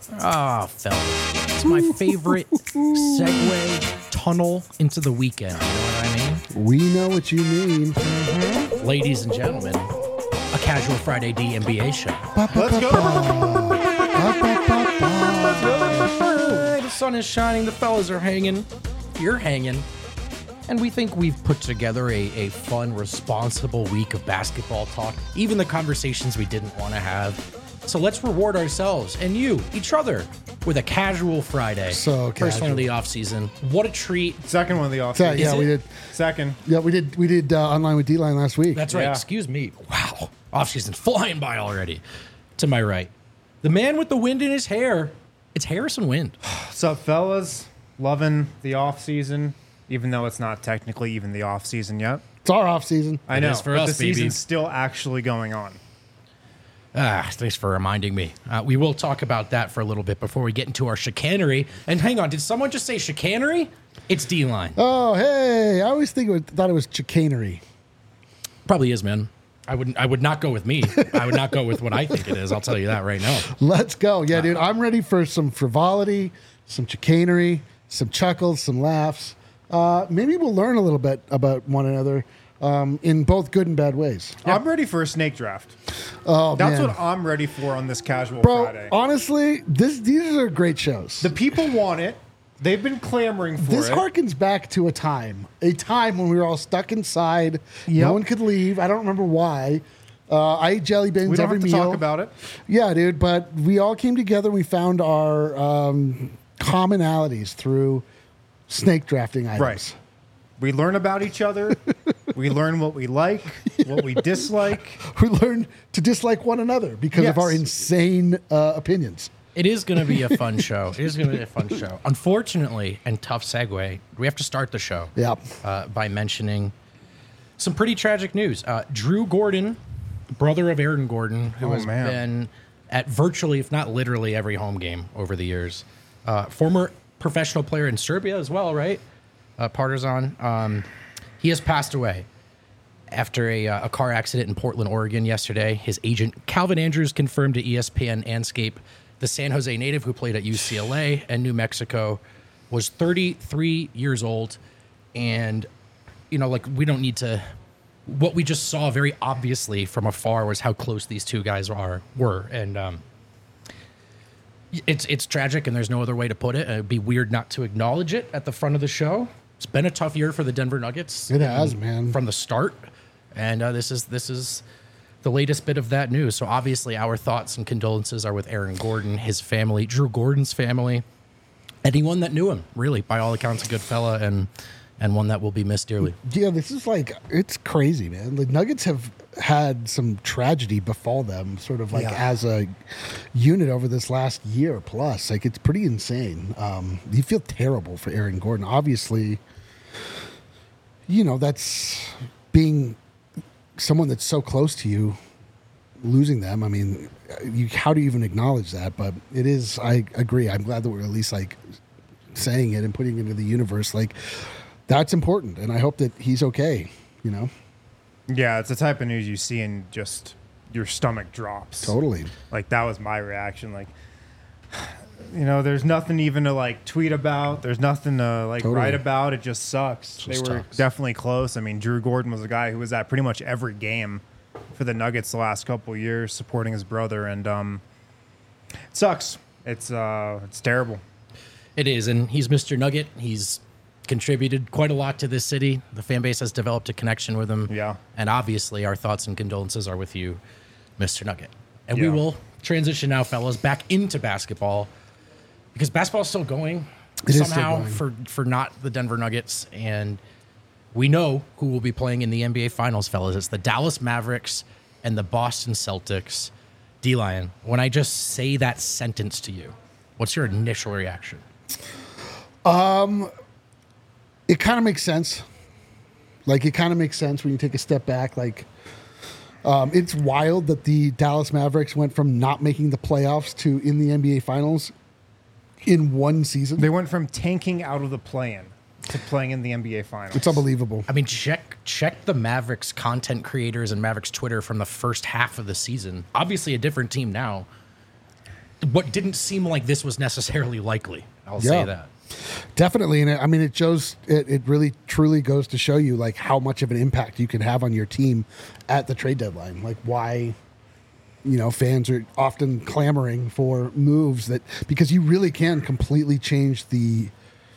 Ah, fellas. It's my favorite segue tunnel into the weekend. You know what I mean? We know what you mean. Ladies and gentlemen, a Casual Friday D NBA show. Let's go. The sun is shining, the fellas are hanging, you're hanging, and we think we've put together a fun, responsible week of basketball talk, even the conversations we didn't want to have. So let's reward ourselves and you, each other, with a Casual Friday. So First one casual. of the off season. What a treat. Second one of the off So, season. yeah, it? we did. Second. Yeah, we did online with D-Line last week. That's right. Yeah. Excuse me. Wow. Off season flying by already. To my right, the man with the wind in his hair. It's Harrison Wind. What's up, fellas? Loving the off season, even though it's not technically even the off season yet. It's our off season. I know, is for but us, the baby. season's still actually going on. Thanks for reminding me. We will talk about that for a little bit before we get into our chicanery. And hang on, did someone just say chicanery? It's D-Line. Oh, hey! I always thought it was chicanery. Probably is, man. I would not go with me. I would not go with what I think it is. I'll tell you that right now. Let's go. Yeah, dude, I'm ready for some frivolity, some chicanery, some chuckles, some laughs. Maybe we'll learn a little bit about one another in both good and bad ways. I'm ready for a snake draft. Oh, That's man. what I'm ready for on this Casual Bro, Friday. honestly, these are great shows. The people want it. They've been clamoring for This it. harkens back to a time when we were all stuck inside. Yep. No one could leave. I don't remember why. I ate jelly beans We don't every have to meal. talk about it. Yeah, dude, but we all came together. We found our commonalities through snake drafting items. Right. We learn about each other. We learn what we like, what we dislike. We learned to dislike one another because of Yes. our insane opinions. It is going to be a fun show. It is going to be a fun show. Unfortunately, and tough segue, we have to start the show Yeah. by mentioning some pretty tragic news. Drew Gordon, brother of Aaron Gordon, who Oh, has man. been at virtually, if not literally, every home game over the years. Former professional player in Serbia as well, right? Partizan. He has passed away after a car accident in Portland, Oregon yesterday. His agent, Calvin Andrews, confirmed to ESPN Anscape the San Jose native who played at UCLA and New Mexico was 33 years old. And, you know, like, we don't need to... What we just saw very obviously from afar was how close these two guys were. And it's tragic, and there's no other way to put it. It'd be weird not to acknowledge it at the front of the show. It's been a tough year for the Denver Nuggets. It has, man. From the start. And this is the latest bit of that news. So obviously our thoughts and condolences are with Aaron Gordon, his family, Drew Gordon's family, anyone that knew him, really, by all accounts, a good fella and one that will be missed dearly. Yeah, this is it's crazy, man. The Nuggets have had some tragedy befall them, sort of as a unit over this last year plus. Like, it's pretty insane. You feel terrible for Aaron Gordon. Obviously, you know, that's being someone that's so close to you, losing them. I mean, how do you even acknowledge that? But it is, I agree. I'm glad that we're at least saying it and putting it into the universe. That's important, and I hope that he's okay, you know? Yeah, it's the type of news you see and just your stomach drops. Totally. Like, that was my reaction. Like, you know, there's nothing even to tweet about. There's nothing to Totally. write about. It just sucks. Just They were sucks. definitely close. I mean, Drew Gordon was a guy who was at pretty much every game for the Nuggets the last couple of years, supporting his brother, and it sucks. It's terrible. It is, and he's Mr. Nugget. He's contributed quite a lot to this city. The fan base has developed a connection with him. Yeah. And obviously our thoughts and condolences are with you, Mr. Nugget. And we Yeah. will transition now, fellas, back into basketball because basketball is still going It is still somehow going. for not the Denver Nuggets. And we know who will be playing in the NBA Finals, fellas. It's the Dallas Mavericks and the Boston Celtics. D-Lion, when I just say that sentence to you, what's your initial reaction? It kind of makes sense. It kind of makes sense when you take a step back. It's wild that the Dallas Mavericks went from not making the playoffs to in the NBA Finals in one season. They went from tanking out of the play-in to playing in the NBA Finals. It's unbelievable. I mean, check the Mavericks content creators and Mavericks Twitter from the first half of the season. Obviously a different team now. what didn't seem like this was necessarily likely. I'll say that. Definitely. And I mean, it really truly goes to show you like how much of an impact you can have on your team at the trade deadline. Like why, fans are often clamoring for moves because you really can completely change the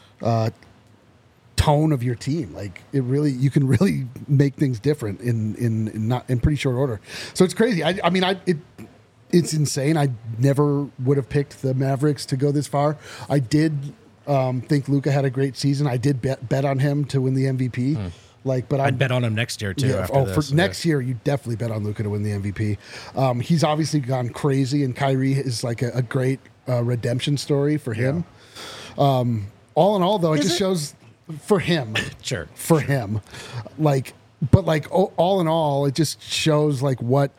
tone of your team. Like you can really make things different in pretty short order. So it's crazy. It's insane. I never would have picked the Mavericks to go this far. I did think Luka had a great season. I did bet on him to win the MVP. But I'd bet on him next year too. Yeah, for next year, you definitely bet on Luka to win the MVP. He's obviously gone crazy, and Kyrie is like a great redemption story for him. All in all, though, it just shows for him. Sure. For him, all in all, it just shows like what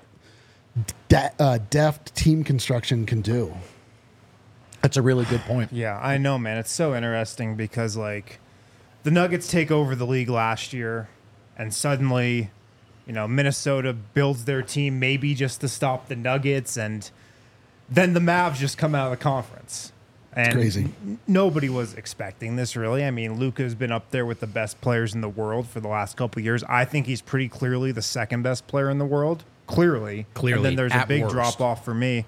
deft team construction can do. That's a really good point. Yeah, I know, man. It's so interesting because like the Nuggets take over the league last year, and suddenly, Minnesota builds their team maybe just to stop the Nuggets, and then the Mavs just come out of the conference. And it's crazy. Nobody was expecting this, really. I mean, Luka's been up there with the best players in the world for the last couple of years. I think he's pretty clearly the second best player in the world. Clearly. And then there's a big drop off for me.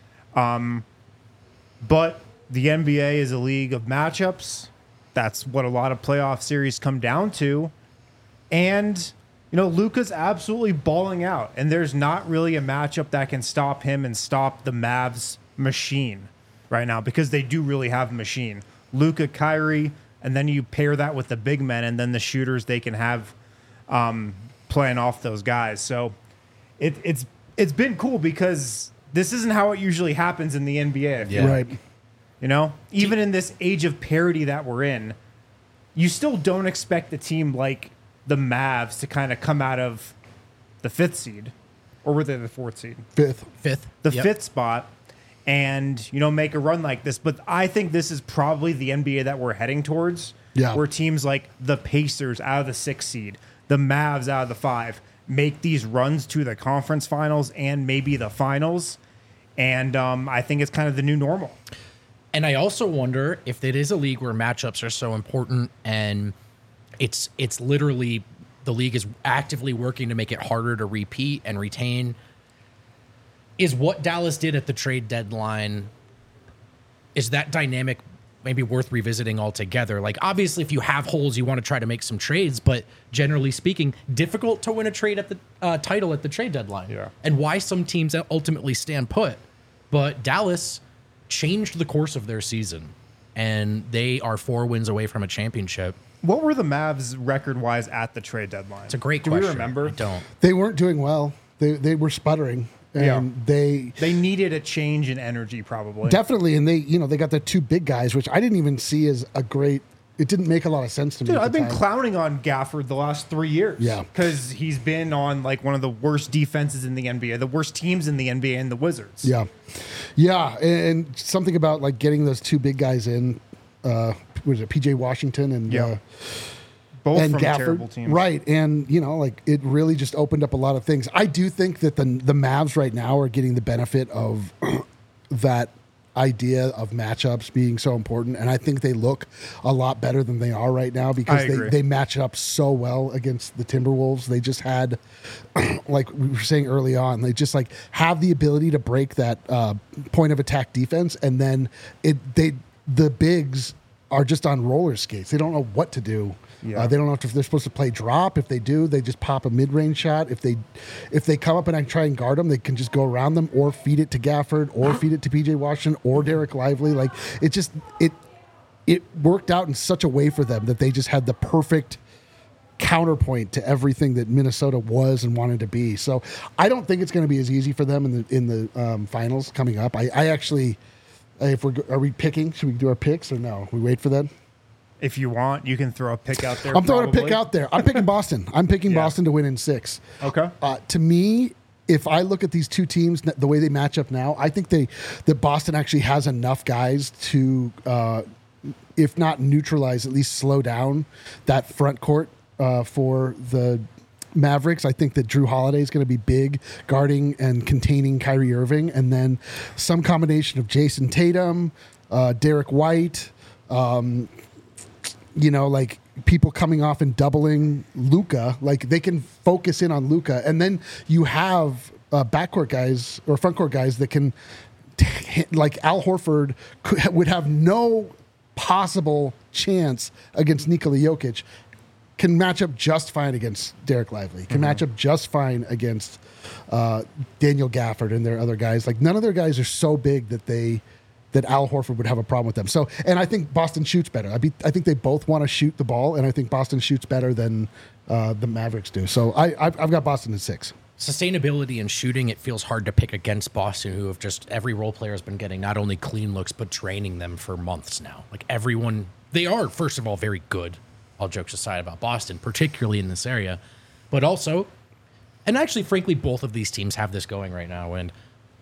But the NBA is a league of matchups. That's what a lot of playoff series come down to. And, Luka's absolutely balling out. And there's not really a matchup that can stop him and stop the Mavs machine right now, because they do really have a machine. Luka, Kyrie, and then you pair that with the big men and then the shooters they can have playing off those guys. So it's been cool because this isn't how it usually happens in the NBA. Yeah. Right. Even in this age of parity that we're in, you still don't expect a team like the Mavs to kind of come out of the 5th seed, or were they the 4th seed? Fifth. The 5th spot, and make a run like this. But I think this is probably the NBA that we're heading towards. Yeah. Where teams like the Pacers out of the 6th seed, the Mavs out of the 5, make these runs to the conference finals and maybe the finals. And I think it's kind of the new normal. And I also wonder if it is a league where matchups are so important, and it's literally the league is actively working to make it harder to repeat and retain. Is what Dallas did at the trade deadline, is that dynamic maybe worth revisiting altogether? Like, obviously, if you have holes, you want to try to make some trades, but generally speaking, difficult to win a trade at the title at the trade deadline. Yeah. And why some teams ultimately stand put. But Dallas changed the course of their season, and they are 4 wins away from a championship. What were the Mavs record-wise at the trade deadline? It's a great question. Do we remember? I don't. They weren't doing well. They were sputtering. And they needed a change in energy, probably. Definitely, and they got the 2 big guys, which I didn't even see as a great. It didn't make a lot of sense to me. Dude, at the I've been time. clowning on Gafford the last 3 years. Yeah, because he's been on like one of the worst defenses in the NBA, the worst teams in the NBA, and the Wizards. Yeah, and something about like getting those 2 big guys in. Was it PJ Washington and both and from Gafford, terrible teams, right? And it really just opened up a lot of things. I do think that the Mavs right now are getting the benefit of that idea of matchups being so important, and I think they look a lot better than they are right now because they match up so well against the Timberwolves. They just had, like we were saying early on, they just like have the ability to break that point of attack defense, and then the bigs are just on roller skates. They don't know what to do. Yeah. They don't know if they're supposed to play drop. If they do, they just pop a mid-range shot. If they come up and I try and guard them, they can just go around them or feed it to Gafford or feed it to PJ Washington or Derek Lively. Like it worked out in such a way for them that they just had the perfect counterpoint to everything that Minnesota was and wanted to be. So I don't think it's going to be as easy for them in the finals coming up. I actually, are we picking? Should we do our picks or no? We wait for that. If you want, you can throw a pick out there. I'm throwing a pick out there. I'm picking Boston. I'm picking Boston to win in 6. Okay. To me, if I look at these 2 teams, the way they match up now, I think that Boston actually has enough guys to, if not neutralize, at least slow down that front court for the Mavericks, I think that Drew Holiday is going to be big guarding and containing Kyrie Irving, and then some combination of Jason Tatum, Derek White, like people coming off and doubling Luka. Like they can focus in on Luka, and then you have backcourt guys or frontcourt guys that can, like Al Horford would have no possible chance against Nikola Jokic. Can match up just fine against Derek Lively. Can match up just fine against Daniel Gafford and their other guys. Like none of their guys are so big that Al Horford would have a problem with them. So, and I think Boston shoots better. I think they both want to shoot the ball, and I think Boston shoots better than the Mavericks do. So I've got Boston at 6. Sustainability in shooting, it feels hard to pick against Boston, who have just every role player has been getting not only clean looks but draining them for months now. Like everyone, they are first of all very good. All jokes aside about Boston, particularly in this area, but also, and actually, frankly, both of these teams have this going right now, and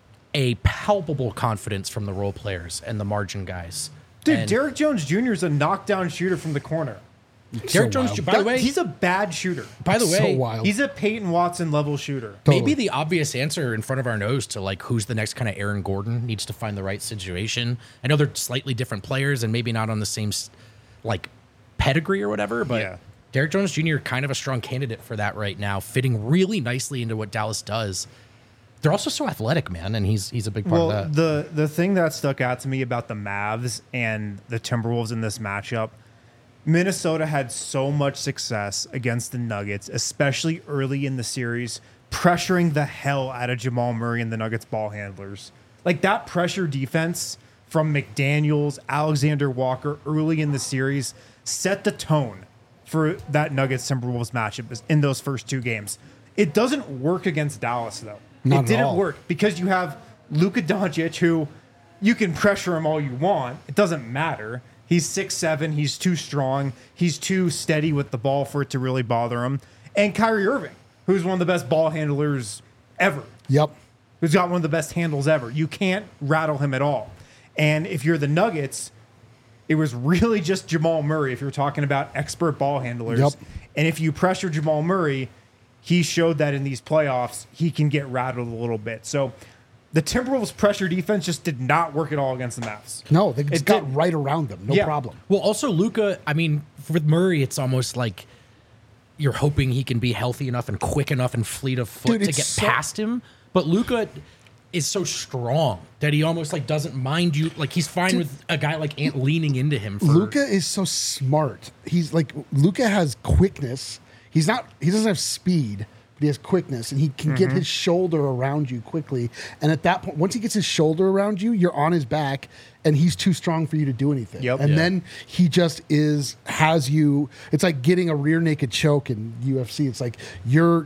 a palpable confidence from the role players and the margin guys. Dude, and Derek Jones Jr. is a knockdown shooter from the corner. Derek Jones, by the way, he's a bad shooter. By the way, so wild. He's a Peyton Watson level shooter. Totally. Maybe the obvious answer in front of our nose to like who's the next kind of Aaron Gordon needs to find the right situation. I know they're slightly different players and maybe not on the same like pedigree or whatever, but Yeah. Derek Jones Jr. kind of a strong candidate for that right now, fitting really nicely into what Dallas does. They're also so athletic, man, and he's a big part of that. The thing that stuck out to me about the Mavs and the Timberwolves in this matchup, Minnesota had so much success against the Nuggets, especially early in the series, pressuring the hell out of Jamal Murray and the Nuggets ball handlers. Like that pressure defense from McDaniels, Alexander Walker early in the series set the tone for that Nuggets Timberwolves matchup in those first 2 games. It doesn't work against Dallas though. Not it didn't at all. work because you have Luka Doncic, who you can pressure him all you want. It doesn't matter. He's 6'7". He's too strong. He's too steady with the ball for it to really bother him. And Kyrie Irving, who's one of the best ball handlers ever. Yep. Who's got one of the best handles ever. You can't rattle him at all. And if you're the Nuggets, it was really just Jamal Murray if you're talking about expert ball handlers. Yep. And if you pressure Jamal Murray, he showed that in these playoffs, he can get rattled a little bit. So the Timberwolves' pressure defense just did not work at all against the Mavs. No, they just got did. right around them. No Yeah. problem. Well, also Luka, I mean, with Murray, it's almost like you're hoping he can be healthy enough and quick enough and fleet of foot Dude, to it's get so- past him. But Luka is so strong that he almost like doesn't mind you. Like he's fine with a guy like Ant leaning into him. For, Luka is so smart. He's like Luka has quickness. He doesn't have speed, but he has quickness, and he can get his shoulder around you quickly. And at that point, once he gets his shoulder around you, you're on his back, and he's too strong for you to do anything. Yep. And Yeah. then he just has you. It's like getting a rear naked choke in UFC. It's like you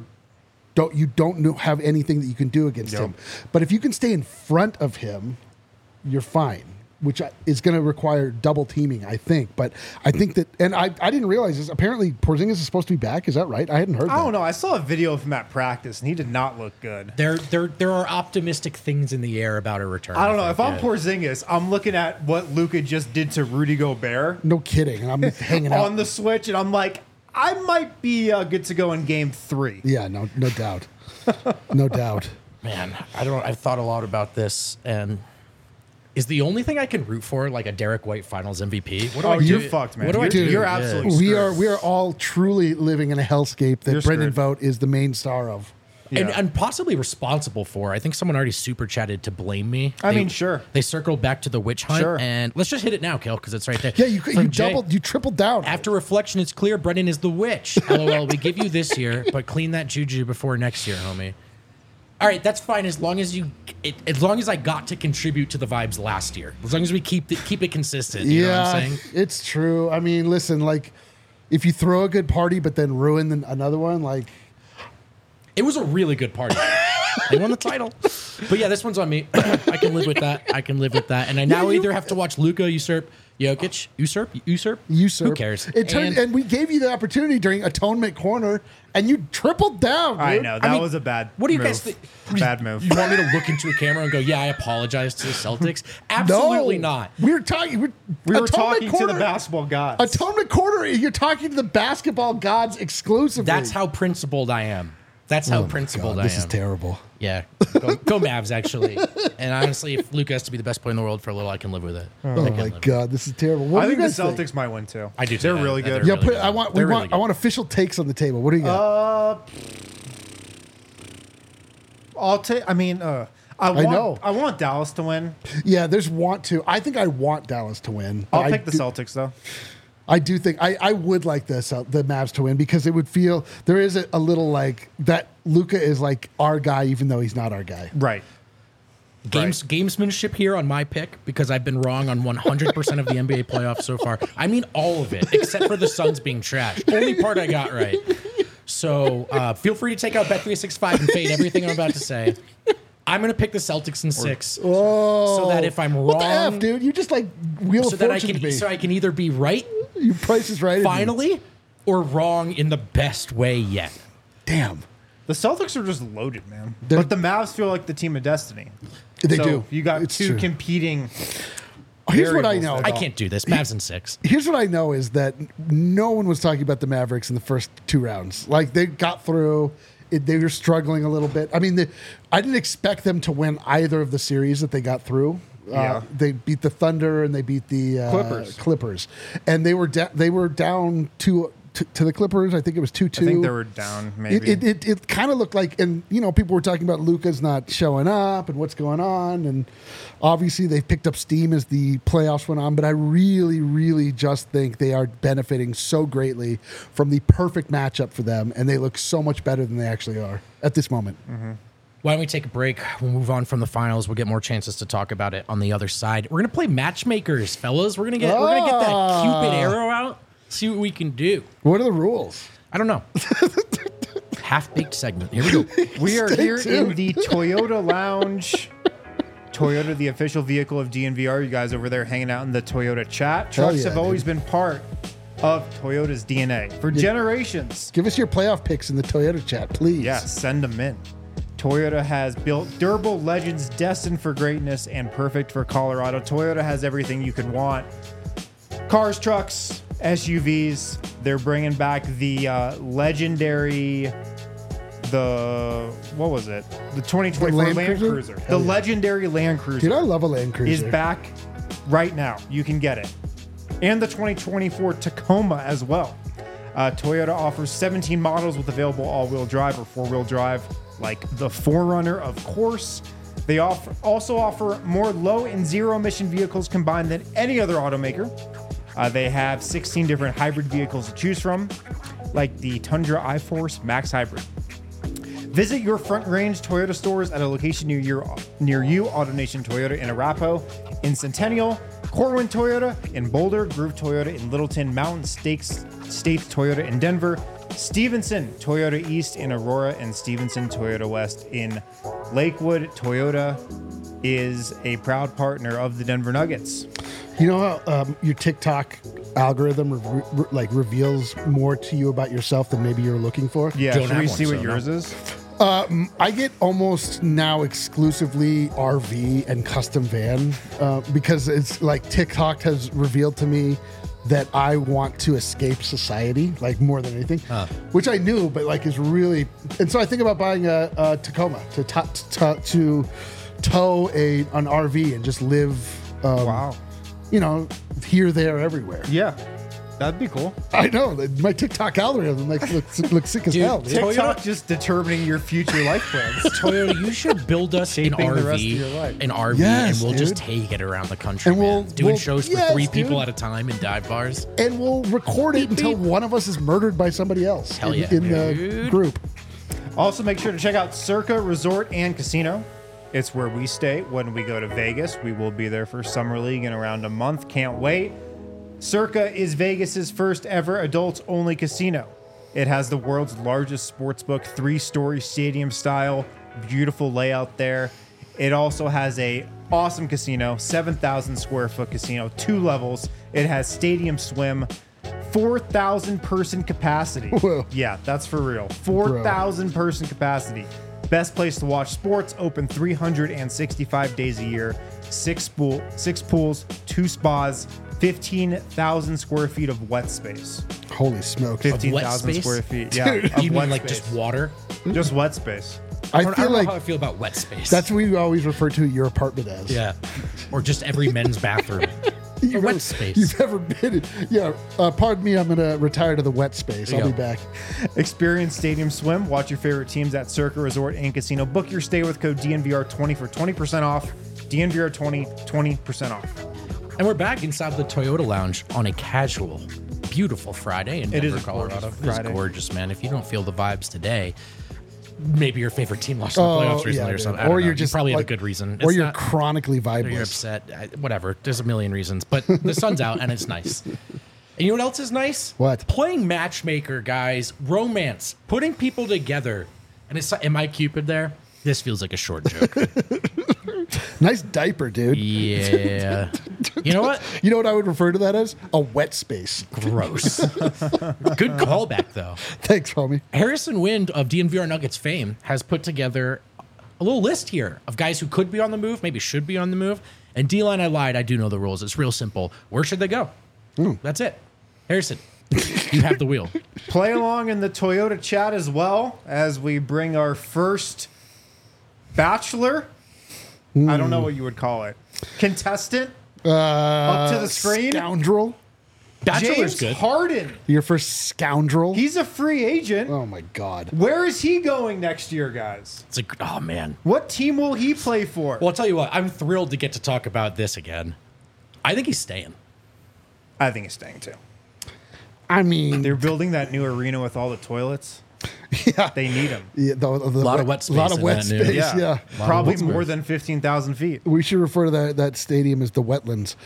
don't have anything that you can do against him. But if you can stay in front of him, you're fine, which is going to require double teaming, I think. But I think that, and I didn't realize this. Apparently, Porzingis is supposed to be back. Is that right? I hadn't heard that. I don't know. I saw a video of him at practice, and he did not look good. there are optimistic things in the air about a return. I don't know. think, If I'm yeah. Porzingis, I'm looking at what Luka just did to Rudy Gobert No kidding. And I'm hanging out. on the switch, and I'm like, I might be good to go in game 3. Yeah, no doubt. No doubt. Man, I've thought a lot about this, and is the only thing I can root for like a Derek White Finals MVP? What do I do? You're fucked, man. What do I do? You're Yeah. absolutely We screwed. are all truly living in a hellscape that You're Brendan screwed. Vogt is the main star of. And, Yeah. and possibly responsible for. I think someone already super chatted to blame me. I mean, sure. They circled back to the witch hunt, Sure. and let's just hit it now, Kel, because it's right there. Yeah, you From Jay, tripled down. After reflection, it's clear Brendan is the witch. LOL, we give you this year, but clean that juju before next year, homie. All right, that's fine as long as as long as I got to contribute to the vibes last year. As long as we keep it consistent. You know what I'm saying? it's true. I mean, listen, like if you throw a good party but then ruin another one, like It was a really good party. They won the title. But yeah, this one's on me. I can live with that. And I now either have to watch Luka usurp Jokic. Usurp. Who cares? And we gave you the opportunity during Atonement Corner, and you tripled down. Dude. I know that was a bad. What do you move. guys think? Bad move. You want me to look into a camera and go, "Yeah, I apologize to the Celtics"? Absolutely not. We were talking. We were talking to the basketball gods. Atonement Corner. You're talking to the basketball gods exclusively. That's how principled I am. That's how principled I am. This is terrible. Yeah, go Mavs, actually. And honestly, if Luka has to be the best player in the world for a little, I can live with it. Oh my God, this is terrible. What I do you think the guys Celtics might win too. I do. They're really good. Yeah, really good. I want official takes on the table. What do you got? I'll take. I mean, I want Dallas to win. Yeah, there's want to. I think I want Dallas to win. I'll pick the Celtics though. I do think I would like the Mavs to win because it would feel there is a little like that. Luka is like our guy, even though he's not our guy. Right. Gamesmanship here on my pick because I've been wrong on 100% of the NBA playoffs so far. I mean all of it except for the Suns being trash. Only part I got right. So feel free to take out Bet365 and fade everything I'm about to say. I'm going to pick the Celtics in 6 so that if I'm wrong... What the F, dude? You just like Wheel of Fortune to me. So I can either be right Your price is right. finally or wrong in the best way yet. Damn. The Celtics are just loaded, man. But the Mavs feel like the team of destiny. They So do. You got It's two true. competing. Here's what I variables know. there. I can't do this. Mavs in 6. Here's what I know is that no one was talking about the Mavericks in the first 2 rounds. Like they got through. They were struggling a little bit. I mean, I didn't expect them to win either of the series that they got through. Yeah. They beat the Thunder and they beat the Clippers, and they were down to the Clippers. I think it was 2-2. I think they were down. Maybe It kind of looked like, and people were talking about Luka's not showing up and what's going on, and obviously they picked up steam as the playoffs went on. But I really, really just think they are benefiting so greatly from the perfect matchup for them, and they look so much better than they actually are at this moment. Mm-hmm. Why don't we take a break? We'll move on from the finals. We'll get more chances to talk about it on the other side. We're gonna play matchmakers, fellas. We're gonna get that Cupid arrow out. See what we can do. What are the rules? I don't know. Half-baked segment. Here we go. we are Stay here tuned. in the Toyota Lounge. Toyota, the official vehicle of DNVR. You guys over there hanging out in the Toyota chat. Trucks yeah, have always been part of Toyota's DNA for generations. Give us your playoff picks in the Toyota chat, please. Yeah, send them in. Toyota has built durable legends destined for greatness and perfect for Colorado. Toyota has everything you could want. Cars, trucks, SUVs. They're bringing back the legendary, what was it? The 2024 Land Land Cruiser? Cruiser. Hell The yeah. legendary Land Cruiser Dude, I love a Land Cruiser. is back right now. You can get it. And the 2024 Tacoma as well. Toyota offers 17 models with available all-wheel drive or four-wheel drive, like the 4Runner, of course. They also offer more low and zero emission vehicles combined than any other automaker. They have 16 different hybrid vehicles to choose from, like the Tundra iForce Max Hybrid. Visit your Front Range Toyota stores at a location near you, AutoNation Toyota in Arapahoe, in Centennial, Corwin Toyota in Boulder, Groove Toyota in Littleton, Mountain States Toyota in Denver, Stevenson Toyota East in Aurora, and Stevenson Toyota West in Lakewood. Toyota is a proud partner of the Denver Nuggets. You know how your TikTok algorithm reveals more to you about yourself than maybe you're looking for? Yeah, Don't should have we one, see what so yours no. is? I get almost now exclusively RV and custom van because it's like TikTok has revealed to me that I want to escape society, like more than anything, which I knew, but like is really. And so I think about buying a Tacoma to tow an RV and just live. Wow. Here, there, everywhere. Yeah, that'd be cool. I know my TikTok algorithm looks sick as Dude, hell. Dude. TikTok just determining your future life plans. Toyota, you should build us an Shaping the rest of your RV, life. and we'll just dude. take it around the country, And man. Doing we'll- shows for yes, 3 people dude. at a time in dive bars. And we'll record it until one of us is murdered by somebody else Hell yeah, in the dude. group. Also, make sure to check out Circa Resort and Casino. It's where we stay when we go to Vegas. We will be there for Summer League in around a month. Can't wait. Circa is Vegas's first ever adults-only casino. It has the world's largest sportsbook, 3-story stadium style, beautiful layout there. It also has a awesome casino, 7,000 square foot casino, 2 levels. It has stadium swim, 4,000 person capacity. Whoa. Yeah, that's for real. 4,000 person capacity. Best place to watch sports, open 365 days a year. 6 pools, 2 spas, 15,000 square feet of wet space. Holy smokes. 15,000 space? square feet. Yeah. You of mean wet like space. just water? Just wet space. I I don't feel know like how I feel about wet space. that's what you always refer to your apartment as. yeah, or just every men's bathroom. You've wet ever- space. You've ever been in, yeah. Pardon me, I'm going to retire to the wet space. There you I'll be go. back. Experience Stadium Swim. Watch your favorite teams at Circa Resort and Casino. Book your stay with code DNVR20 for 20% off. DNVR20, 20% off. And we're back inside the Toyota Lounge on a casual, beautiful Friday in It Denver, is a Colorado. gorgeous It is Friday. gorgeous, man. If you don't feel the vibes today, maybe your favorite team lost in the playoffs recently or dude. something. I don't Or know. you're just you probably have like- a good reason. Or It's you're not- chronically or you're vibeless. upset. Whatever. There's a million reasons. But the sun's out and it's nice. And you know what else is nice? What? Playing matchmaker, guys. Romance. Putting people together. And it's am I Cupid there? This feels like a short joke. Nice diaper, dude. Yeah. You know what? You know what I would refer to that as? A wet space. Gross. Good callback, though. Thanks, homie. Harrison Wind of DNVR Nuggets fame has put together a little list here of guys who could be on the move, maybe should be on the move. And D-Line, I lied. I do know the rules. It's real simple. Where should they go? That's it. Harrison, you have the wheel. Play along in the Toyota chat as well as we bring our first bachelor. I don't know what you would call it. Contestant up to the screen. Scoundrel. Bachelor's James good. Harden. Your first scoundrel. He's a free agent. Oh my God. Where is he going next year, guys? It's like, oh, man. What team will he play for? Well, I'll tell you what. I'm thrilled to get to talk about this again. I think he's staying. I think he's staying too. I mean, They're building that new arena with all the toilets. yeah, They need him. yeah, a lot of wet space lot of in wet that new- space. Yeah. Yeah. Probably wet more space. than 15,000 feet. We should refer to that stadium as the wetlands.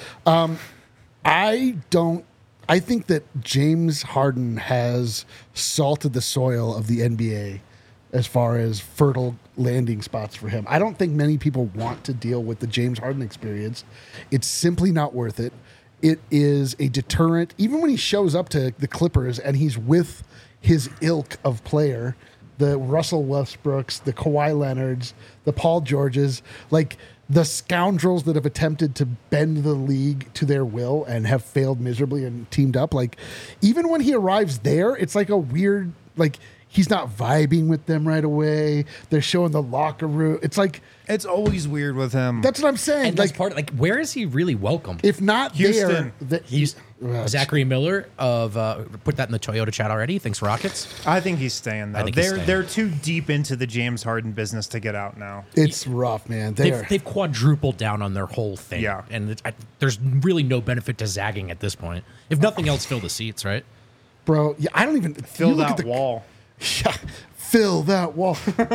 I think that James Harden has salted the soil of the NBA as far as fertile landing spots for him. I don't think many people want to deal with the James Harden experience. It's simply not worth it. It is a deterrent. Even when he shows up to the Clippers and he's with his ilk of player, the Russell Westbrooks, the Kawhi Leonards, the Paul Georges, like the scoundrels that have attempted to bend the league to their will and have failed miserably and teamed up. Like, even when he arrives there, it's like a weird, like, he's not vibing with them right away. They're showing the locker room. It's like, It's always weird with him. that's what I'm saying. And that's Like, part of, where is he really welcome? if not Houston. there, He's Zachary Miller of put that in the Toyota chat already. Thinks Rockets. I think he's staying though. I think he's They're staying. they're too deep into the James Harden business to get out now. it's rough, man. They're, They've quadrupled down on their whole thing. Yeah. And there's really no benefit to zagging at this point. If nothing else, fill the seats, right? bro, yeah, I don't even Fill you look that at the, wall. Yeah, fill that wall.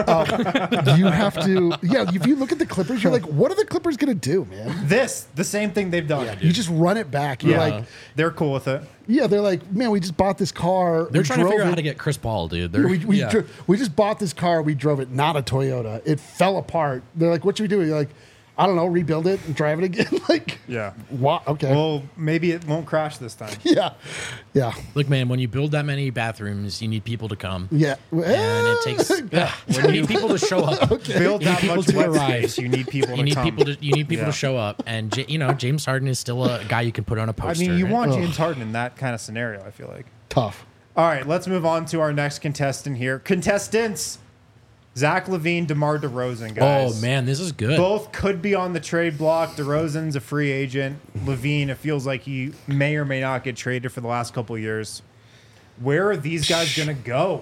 You have to. Yeah, if you look at the Clippers, you're like, what are the Clippers gonna do, man? The same thing they've done. You just run it back. You're like, They're cool with it. yeah, they're like, man, we just bought this car. They're we trying to drove figure out it- how to get Chris Paul, dude. They're, We just bought this car. We drove it, not a Toyota. It fell apart. They're like, what should we do? You're like, I don't know, rebuild it and drive it again. Like, Yeah. what? Okay. Well, maybe it won't crash this time. yeah, yeah, Look, man, when you build that many bathrooms, you need people to come. yeah. And it takes you need people to show up. Build You need that people much to wet arrive. space. You need people You to need come. people to Yeah. show up, and James Harden is still a guy you can put on a I poster. mean, you right? want James Harden in that kind of scenario, I feel like. Tough. All right, let's move on to our next contestant here. Contestants, Zach LaVine, DeMar DeRozan, guys. Oh man, this is good. Both could be on the trade block. DeRozan's a free agent. LaVine, it feels like he may or may not get traded for the last couple of years. Where are these guys going to go?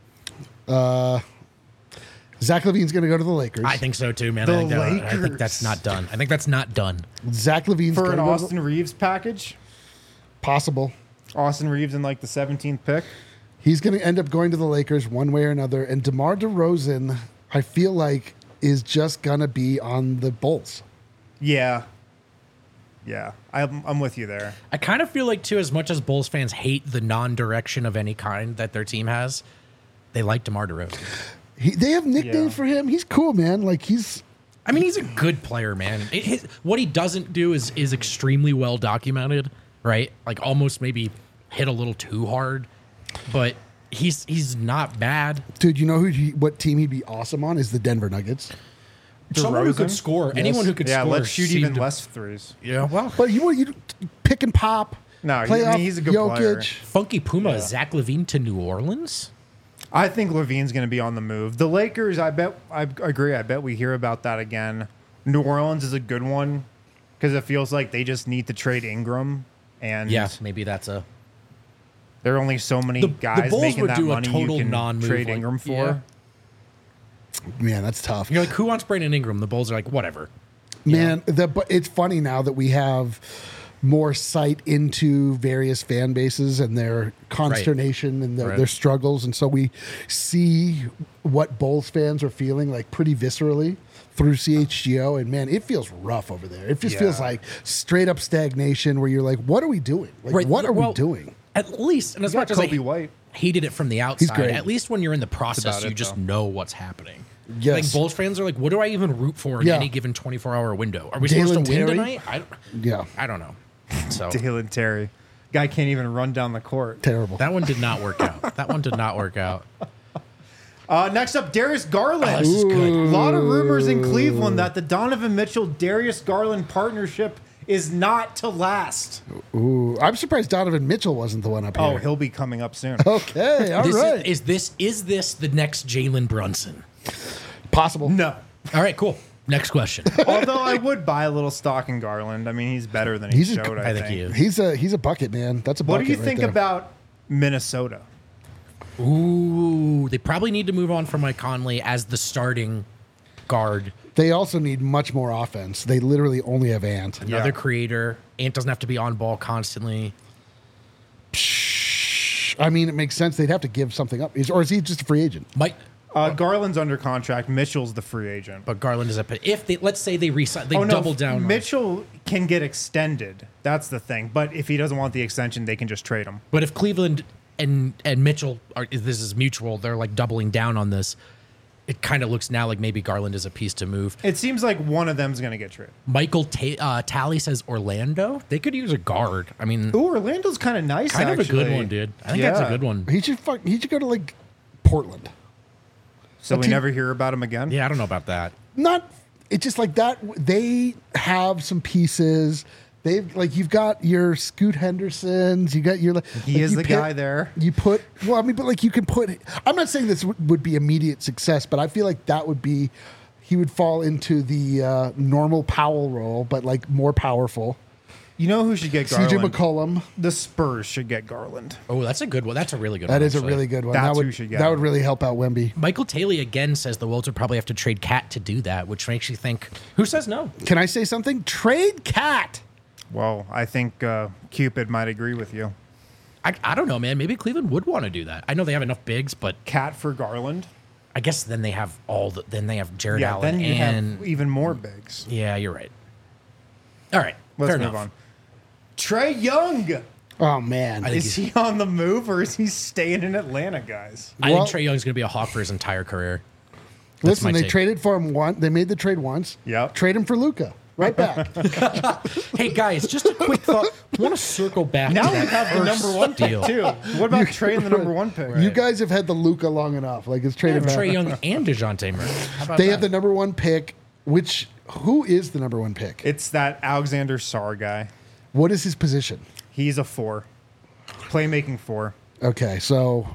Zach LaVine's going to go to the Lakers. I think so too, man. The I think Lakers. that's not done. I think that's not done. Zach LaVine's For going an to go to Austin Reeves package? possible. Austin Reeves in like the 17th pick? He's going to end up going to the Lakers one way or another. And DeMar DeRozan, I feel like, is just going to be on the Bulls. Yeah. Yeah, I'm with you there. I kind of feel like too, as much as Bulls fans hate the non-direction of any kind that their team has, they like DeMar DeRozan. They have nicknames Yeah. for him. He's cool, man. Like, he's I mean, he's a good player, man. What he doesn't do is extremely well documented, right? Like almost maybe hit a little too hard, but he's not bad. Dude, you know what team he'd be awesome on is the Denver Nuggets. Someone who could score. Yes. Anyone who could Yeah, score. let's shoot even less threes. Yeah, well, But you pick and pop. No, playoff he's a good Jokic. player. Funky Puma, Zach LaVine to New Orleans. I think Levine's going to be on the move. The Lakers, I agree. I bet we hear about that again. New Orleans is a good one because it feels like they just need to trade Ingram. And Yeah, maybe that's a. there are only so many The guys Bulls making would that do a money total you can non-move, trade like, Ingram for. yeah. Man, that's tough. You're like, who wants Brandon Ingram? The Bulls are like, whatever. Man, but it's funny now that we have more sight into various fan bases and their consternation and their struggles. And so we see what Bulls fans are feeling like pretty viscerally through CHGO. And man, it feels rough over there. It just feels like straight up stagnation where you're like, what are we doing? Like, what are we doing? At least, and as You much got as I Kobe White. hated it from the He's outside, great. at least when you're in the process, about you it, just though. know what's happening. Yes. Like Bulls fans are like, what do I even root for in Yeah. any given 24-hour window? Are we Dalen supposed to win Terry? tonight? Yeah, I don't know. So Dalen Terry. Guy can't even run down the court. terrible. that one did not work out. That one did not work out. Next up, Darius Garland. This is good. A lot of rumors in Cleveland that the Donovan Mitchell-Darius Garland partnership is not to last. Ooh, I'm surprised Donovan Mitchell wasn't the one up Oh, here. he'll be coming up soon. Okay, all right. Is this the next Jalen Brunson? Possible. No. All right, cool. Next question. Although I would buy a little stock in Garland. I mean, he's better than he He's a- showed, I I think think. he is. He's a bucket, man. That's a What bucket. do you right think there. about Minnesota? Ooh, they probably need to move on from Mike Conley as the starting guard. They also need much more offense. They literally only have Ant. Another Yeah. creator. Ant doesn't have to be on ball constantly. I mean, it makes sense. They'd have to give something up. Or is he just a free agent? Mike, Garland's under contract. Mitchell's the free agent. but Garland is if they let's say they resign, they Oh, no, double down. on- Mitchell can get extended. That's the thing. But if he doesn't want the extension, they can just trade him. But if Cleveland and Mitchell are, if this is mutual, they're like doubling down on this. It kind of looks now like maybe Garland is a piece to move. It seems like one of them's going to get traded. Michael Talley says Orlando. They could use a guard. I mean, Ooh, Orlando's kind of nice. kind of a good actually. one, dude. I think that's a Yeah. good one. He should go to like Portland. So A we team- never hear about him again. Yeah, I don't know about that. Not. It's just like that. They have some pieces. They've like you've got your Scoot Hendersons. You got your. He like, is you the guy there. You put. Well, I mean, but like you can put. I'm not saying this would be immediate success, but I feel like that would be. He would fall into the normal Powell role, but like more powerful. You know who should get Garland? CJ McCollum. The Spurs should get Garland. Oh, that's a good one. That's a really good one. That is a actually. really good one. That's that would who should get that him. would really help out Wemby. Michael Taylor again says the Wolves would probably have to trade Cat to do that, which makes you think, who says no? Can I say something? Trade Cat. Well, I think Cupid might agree with you. I don't know, man. Maybe Cleveland would want to do that. I know they have enough bigs, but Cat for Garland. I guess then they have then they have Jared Yeah, Allen then you and have even more bigs. yeah, you're right. All right, Let's fair move enough. on. Trey Young. Oh man. think Is he on the move or is he staying in Atlanta, guys? I Well- think Trey Young's going to be a Hawk for his entire career. That's Listen, my they take. traded for him once. They made the trade once. Yep. Trade him for Luca. Right back. Hey guys, just a quick thought. I want to circle back. Now to we that have the first number one pick deal. too. What about trading the number one pick? You guys have had the Luca long enough. Like it's They traded have back. Trey Young and Dejounte Murray. How about They that? have the number one pick. Who is the number one pick? It's that Alexander Sarr guy. What is his position? He's a 4. Playmaking 4. Okay, so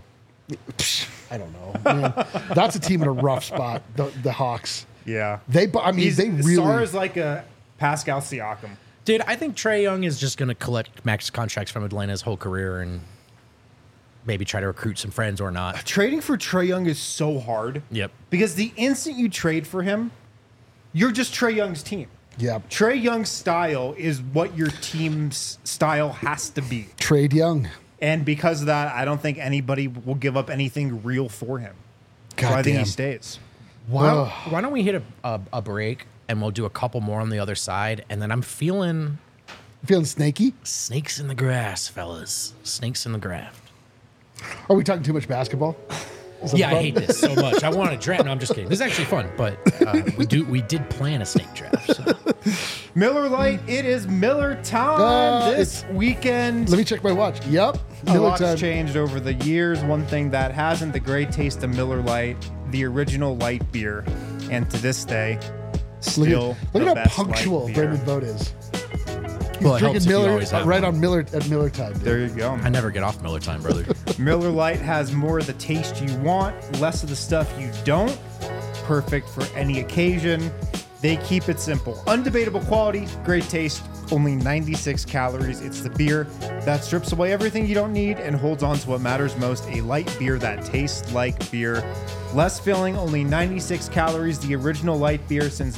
I don't know. Man, that's a team in a rough spot. The Hawks. Yeah. They really. Sarr is like a Pascal Siakam. Dude, I think Trey Young is just going to collect max contracts from Atlanta his whole career and maybe try to recruit some friends or not. Trading for Trey Young is so hard. Yep. Because the instant you trade for him, you're just Trey Young's team. Yeah. Trey Young's style is what your team's style has to be. Trade Young. And because of that, I don't think anybody will give up anything real for him. So I think Goddamn. he stays. Why don't we hit a break and we'll do a couple more on the other side, and then I'm feeling Feeling snaky? snakes in the grass, fellas. Snakes in the graft. Are we talking too much basketball? Yeah, I hate this so much. I want to draft. No, I'm just kidding. This is actually fun, but we did plan a snake draft. So. Miller Lite, it is Miller time this weekend. Let me check my watch. Yep. A Miller lot's time. changed over the years. One thing that hasn't, the great taste of Miller Lite, the original light beer, and to this day, still Look the at how best punctual light beer. Brandon Vogt is. Well, it helps Drinking if you Miller always have right one. on Miller at Miller time. Dude. There you go. I never get off Miller time, brother. Miller Lite has more of the taste you want, less of the stuff you don't. Perfect for any occasion. They keep it simple. Undebatable quality, great taste, only 96 calories. It's the beer that strips away everything you don't need and holds on to what matters most, a light beer that tastes like beer. Less filling, only 96 calories, the original light beer since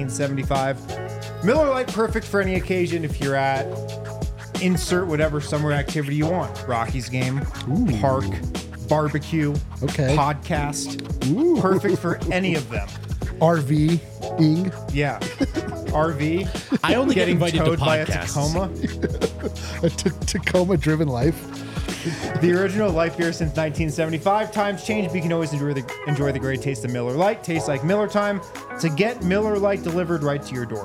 1975. Miller Lite, perfect for any occasion if you're at insert whatever summer activity you want. Rockies game, park, barbecue, Okay. podcast. Ooh. Perfect for any of them. RV-ing. Yeah. RV. I only get Getting invited to towed by a podcasts. Tacoma. A Tacoma-driven life. The original light beer since 1975. Times change, but you can always enjoy the great taste of Miller Lite. Tastes like Miller time. To get Miller Lite delivered right to your door,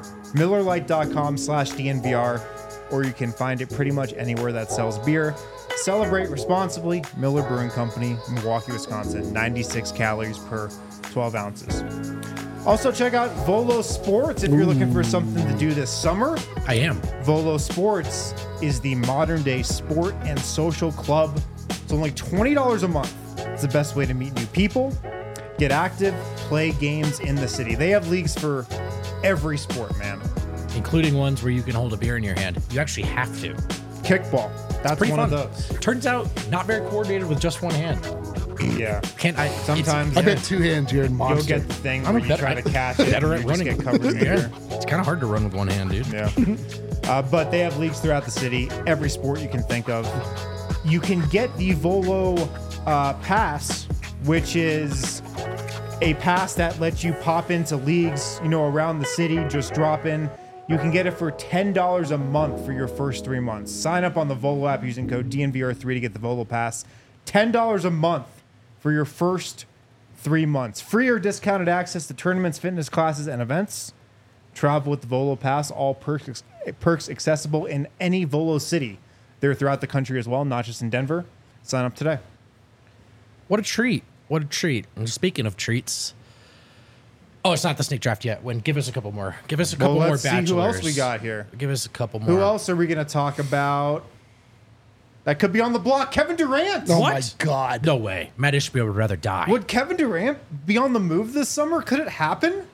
MillerLite.com/DNVR, or you can find it pretty much anywhere that sells beer. Celebrate responsibly. Miller Brewing Company, Milwaukee, Wisconsin. 96 calories per 12 ounces. Also, check out Volo Sports if you're looking for something to do this summer. I am. Volo Sports is the modern day sport and social club. It's only $20 a month. It's the best way to meet new people, get active, play games in the city. They have leagues for every sport, man. Including ones where you can hold a beer in your hand. You actually have to. Kickball. That's Pretty one fun. of those. Turns out, not very coordinated with just one hand. Yeah. Can't I? Sometimes I bet two hands you're in you'll monster. get the thing I'm where a you try to catch it better and at you just running. get covered in beer. It's kind of hard to run with one hand, dude. Yeah. But they have leagues throughout the city, every sport you can think of. You can get the Volo Pass, which is a pass that lets you pop into leagues, around the city, just drop in. You can get it for $10 a month for your first 3 months. Sign up on the Volo app using code DNVR3 to get the Volo Pass. $10 a month for your first 3 months. Free or discounted access to tournaments, fitness classes, and events. Travel with the Volo Pass. All perks accessible in any Volo city. They're throughout the country as well, not just in Denver. Sign up today. What a treat. What a treat. And speaking of treats. Oh, it's not the snake draft yet. Give us a couple more. Give us a couple more let's bachelors. see who else we got here. Give us a couple more. Who else are we going to talk about? That could be on the block. Kevin Durant. Oh What? my God. No way. Matt Ishbia would rather die. Would Kevin Durant be on the move this summer? Could it happen?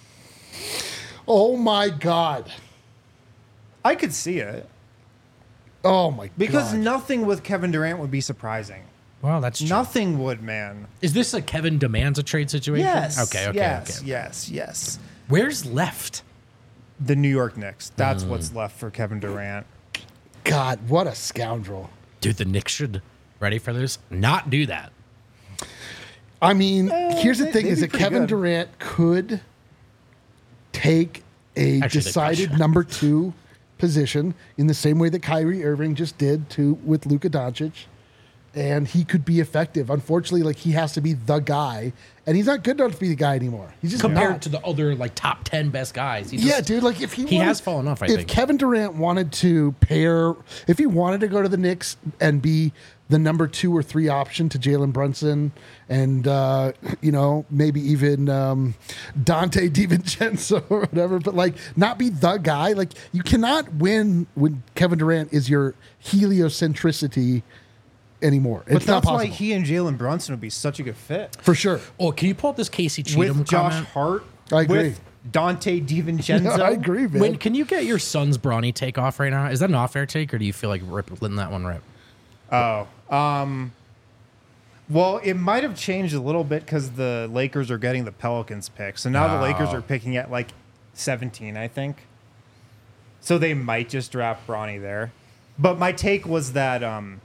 Oh my God. I could see it. Oh my Because God. nothing with Kevin Durant would be surprising. Well, that's true. Nothing would, man. Is this a Kevin demands a trade situation? Yes. Okay. Yes. Where's left? The New York Knicks. That's what's left for Kevin Durant. God, what a scoundrel. Dude, the Knicks should, ready for this, not do that. I mean, here's the thing: they'd is be that pretty Kevin good. Durant could take a Actually, they decided could. number 2 position in the same way that Kyrie Irving just did with Luka Doncic, and he could be effective. Unfortunately, he has to be the guy, and he's not good enough to be the guy anymore. He's just Compared not. to the other top 10 best guys. Yeah, dude. If he has fallen off, I if think. Kevin Durant wanted to if he wanted to go to the Knicks and be the number 2 or 3 option to Jalen Brunson and maybe even Dante DiVincenzo or whatever, but not be the guy. You cannot win when Kevin Durant is your heliocentricity anymore. But It's not that's why possible. he and Jalen Brunson would be such a good fit. For sure. Oh, can you pull up this Casey Cheatham With Josh comment? Hart. I agree. With Dante DiVincenzo. I agree, man. Can you get your son's brawny take off right now? Is that an off-air take, or do you feel like letting that one rip? Oh. Well, it might have changed a little bit because the Lakers are getting the Pelicans pick. So now the Lakers are picking at 17, I think. So they might just draft Bronny there. But my take was that,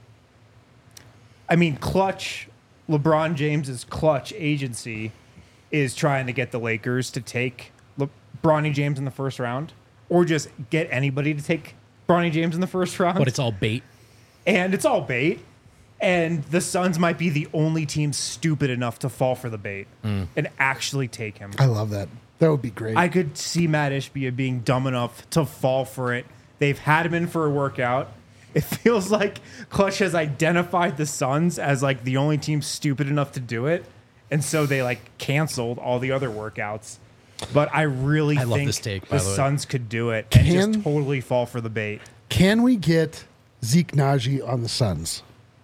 Clutch, LeBron James's Clutch agency is trying to get the Lakers to take Bronny James in the first round, or just get anybody to take Bronny James in the first round. But it's all bait. And it's all bait. And the Suns might be the only team stupid enough to fall for the bait and actually take him. I love that. That would be great. I could see Matt Ishbia being dumb enough to fall for it. They've had him in for a workout. It feels like Clutch has identified the Suns as like the only team stupid enough to do it. And so they like canceled all the other workouts. But I really love think this take, by the the way. Suns could do it and just totally fall for the bait. Can we get Zeke Naji on the Suns?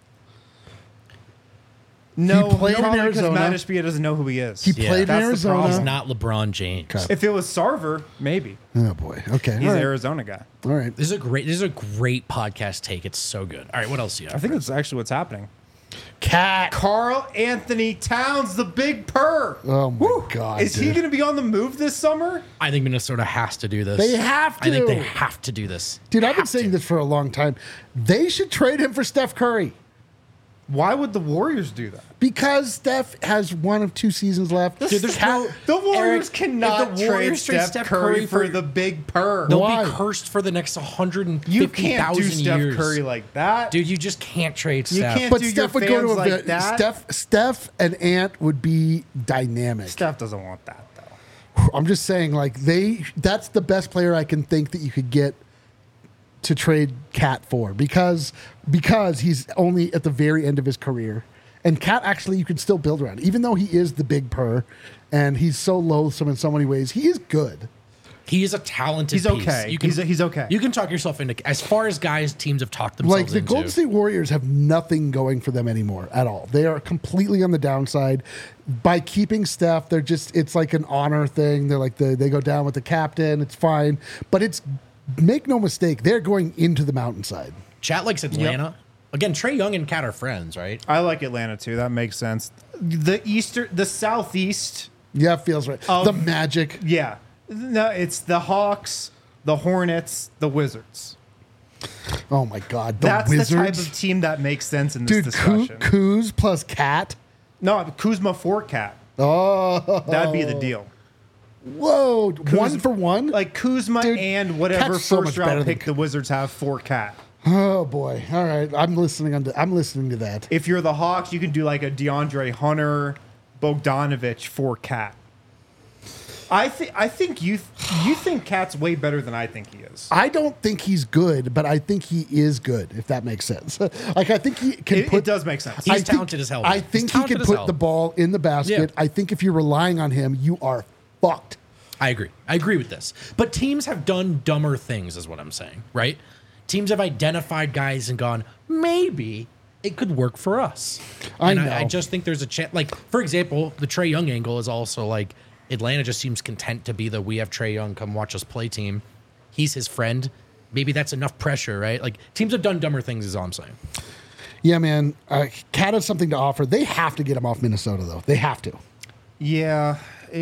No, played in probably because Arizona. Matt Ishbia doesn't know who he is. He played in that's the Arizona. problem. He's not LeBron James. Okay. If it was Sarver, maybe. Oh boy. Okay. He's All an right. Arizona guy. All right. This is a great podcast take. It's so good. All right, what else do you I have? think that's actually what's happening. Cat. Carl Anthony Towns, the big purr. Oh my God. Is he dude. going to be on the move this summer? I think Minnesota has to do this. They have I think to. they have to do this. Dude, I've been Have saying to. this for a long time. They should trade him for Steph Curry Why would the Warriors do that? because Steph has 1 of 2 seasons left. Dude, there's Cat- The Warriors Eric, cannot if the Warriors trade Steph Curry for the big purr. They'll Why? be cursed for the next You can't 150,000 do Steph years. Curry like that. Dude, you just can't trade You Steph. can't but do Steph your would go to fans a like that. Steph and Ant would be dynamic. Steph doesn't want that, though. I'm just saying, like that's the best player I can think that you could get to trade Cat for because he's only at the very end of his career. And Cat actually you can still build around. Even though he is the big purr and he's so loathsome in so many ways, he is good. He is a talented He's piece. okay. You can, He's okay. You can talk yourself into, as far as guys teams have talked themselves Like the into. Golden State Warriors have nothing going for them anymore at all. They are completely on the downside. By keeping Steph, they're just it's like an honor thing. They're like they go down with the captain. It's fine. But it's make no mistake, they're going into the mountainside. Chat likes Atlanta. Again, Trey Young and Cat are friends, right? I like Atlanta, too. That makes sense. The Southeast, Yeah, it feels right. The Magic. yeah. No, it's the Hawks, the Hornets, the Wizards. Oh my God, the That's Wizards. the type of team that makes sense in this Dude, discussion. Kuz plus Cat. No, Kuzma for Cat. Oh, That'd be the deal. whoa! 1 for 1. Like Kuzma Dude, and whatever Cat's so first much better round than pick the Wizards have for Cat. Oh boy! All right, I'm listening to that. If you're the Hawks, you can do like a DeAndre Hunter, Bogdanovich for Cat. I think you think Cat's way better than I think he is. I don't think he's good, but I think he is good. If that makes sense. Like I think he can It put. does make sense. He's I think- talented as hell. I He's think he talented can as put hell. the ball in the basket. Yeah. I think if you're relying on him, you are fucked. I agree. I agree with this. But teams have done dumber things, is what I'm saying, right? Teams have identified guys and gone, maybe it could work for us. I And know. I just think there's a chance. Like, for example, the Trey Young angle is also like Atlanta just seems content to be the we have Trey Young, come watch us play team. He's his friend. Maybe that's enough pressure, right? Like, teams have done dumber things, is all I'm saying. Yeah, man. Cat has something to offer. They have to get him off Minnesota, though. They have to. Yeah,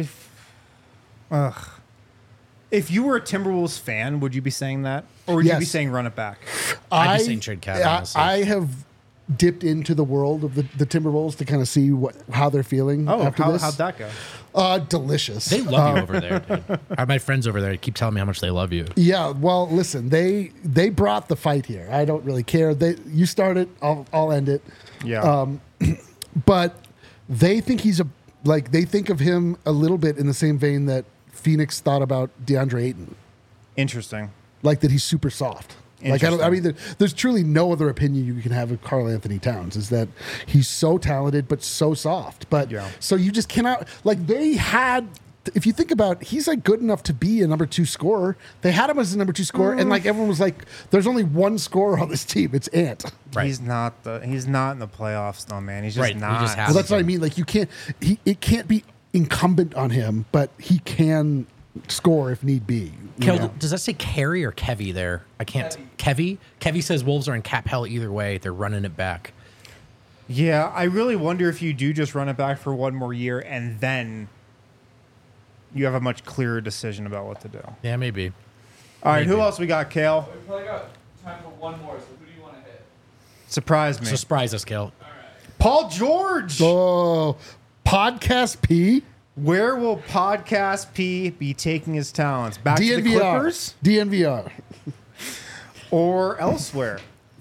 if you were a Timberwolves fan, would you be saying that, or would you be Yes. saying run it back? I'd be saying trade Cat, honestly. I have dipped into the world of the Timberwolves to kind of see how they're feeling after this. How'd that go? Delicious. They love you over there, dude. My friends over there keep telling me how much they love you. Yeah, well, listen, they brought the fight here. I don't really care. You start it, I'll end it. Yeah. But they think they think of him a little bit in the same vein that Phoenix thought about DeAndre Ayton, Interesting. like that he's super soft. Like I mean, there's truly no other opinion you can have of Karl Anthony Towns is that he's so talented but so soft. But Yeah. so you just cannot like they had. If you think about, he's like good enough to be a number 2 scorer. They had him as a number 2 scorer, and like everyone was like, "There's only one scorer on this team. It's Ant." Right. He's not in the playoffs, though, man. He's just Right, he not. just has- Well, that's what I mean. Like you can't. It can't be incumbent on him, but he can score if need be. you Kel, know? does that say Kerry or Kevy there? I can't. Kevy? Kevy says Wolves are in cap hell either way. They're running it back. Yeah, I really wonder if you do just run it back for one more year and then you have a much clearer decision about what to do. Yeah, maybe. All right, who Maybe. else we got, Kale? We probably got time for one more, so who do you want to hit? Surprise me. So surprise us, Kel. Paul George! Oh, podcast P. Where will Podcast P be taking his talents? Back to the DNVR. Clippers DNVR. or elsewhere?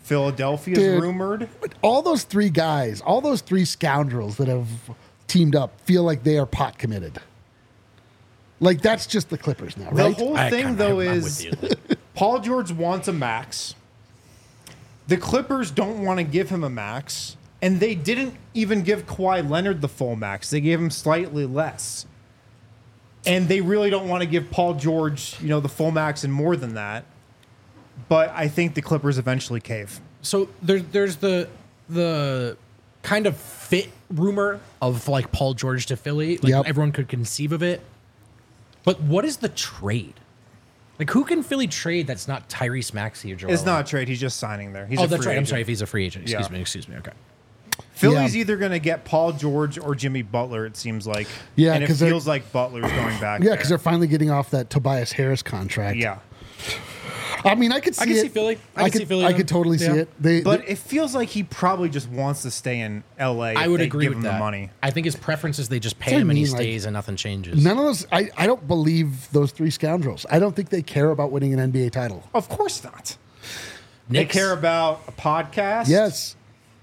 Philadelphia Dude. is rumored. All those three guys, all those three scoundrels that have teamed up feel like they are pot committed. Like, that's just the Clippers now, The right? whole thing, though, is Paul George wants a max. The Clippers don't want to give him a max. And they didn't even give Kawhi Leonard the full max. They gave him slightly less. And they really don't want to give Paul George, the full max and more than that. But I think the Clippers eventually cave. So there's the kind of fit rumor of like Paul George to Philly. Like Yep. everyone could conceive of it. But what is the trade? Like who can Philly trade that's not Tyrese Maxey or Joel? It's not a trade. He's just signing there. He's a that's free right. I'm agent. sorry if he's a free agent. Yeah. Excuse me. Okay. Philly's Yeah. either going to get Paul George or Jimmy Butler, it seems like. Yeah, and it 'cause they're- feels like Butler's going back Yeah, there. because they're finally getting off that Tobias Harris contract. Yeah. I mean, I could see I can it. see Philly. I could Philly. I could totally see Yeah. it. But it feels like he probably just wants to stay in LA. I if would they agree give with him that. the money. I think his preference is they just pay That's what him I and he mean, like, stays and nothing changes. none of those. I don't believe those three scoundrels. I don't think they care about winning an NBA title. Of course not. Knicks. They care about a podcast. Yes.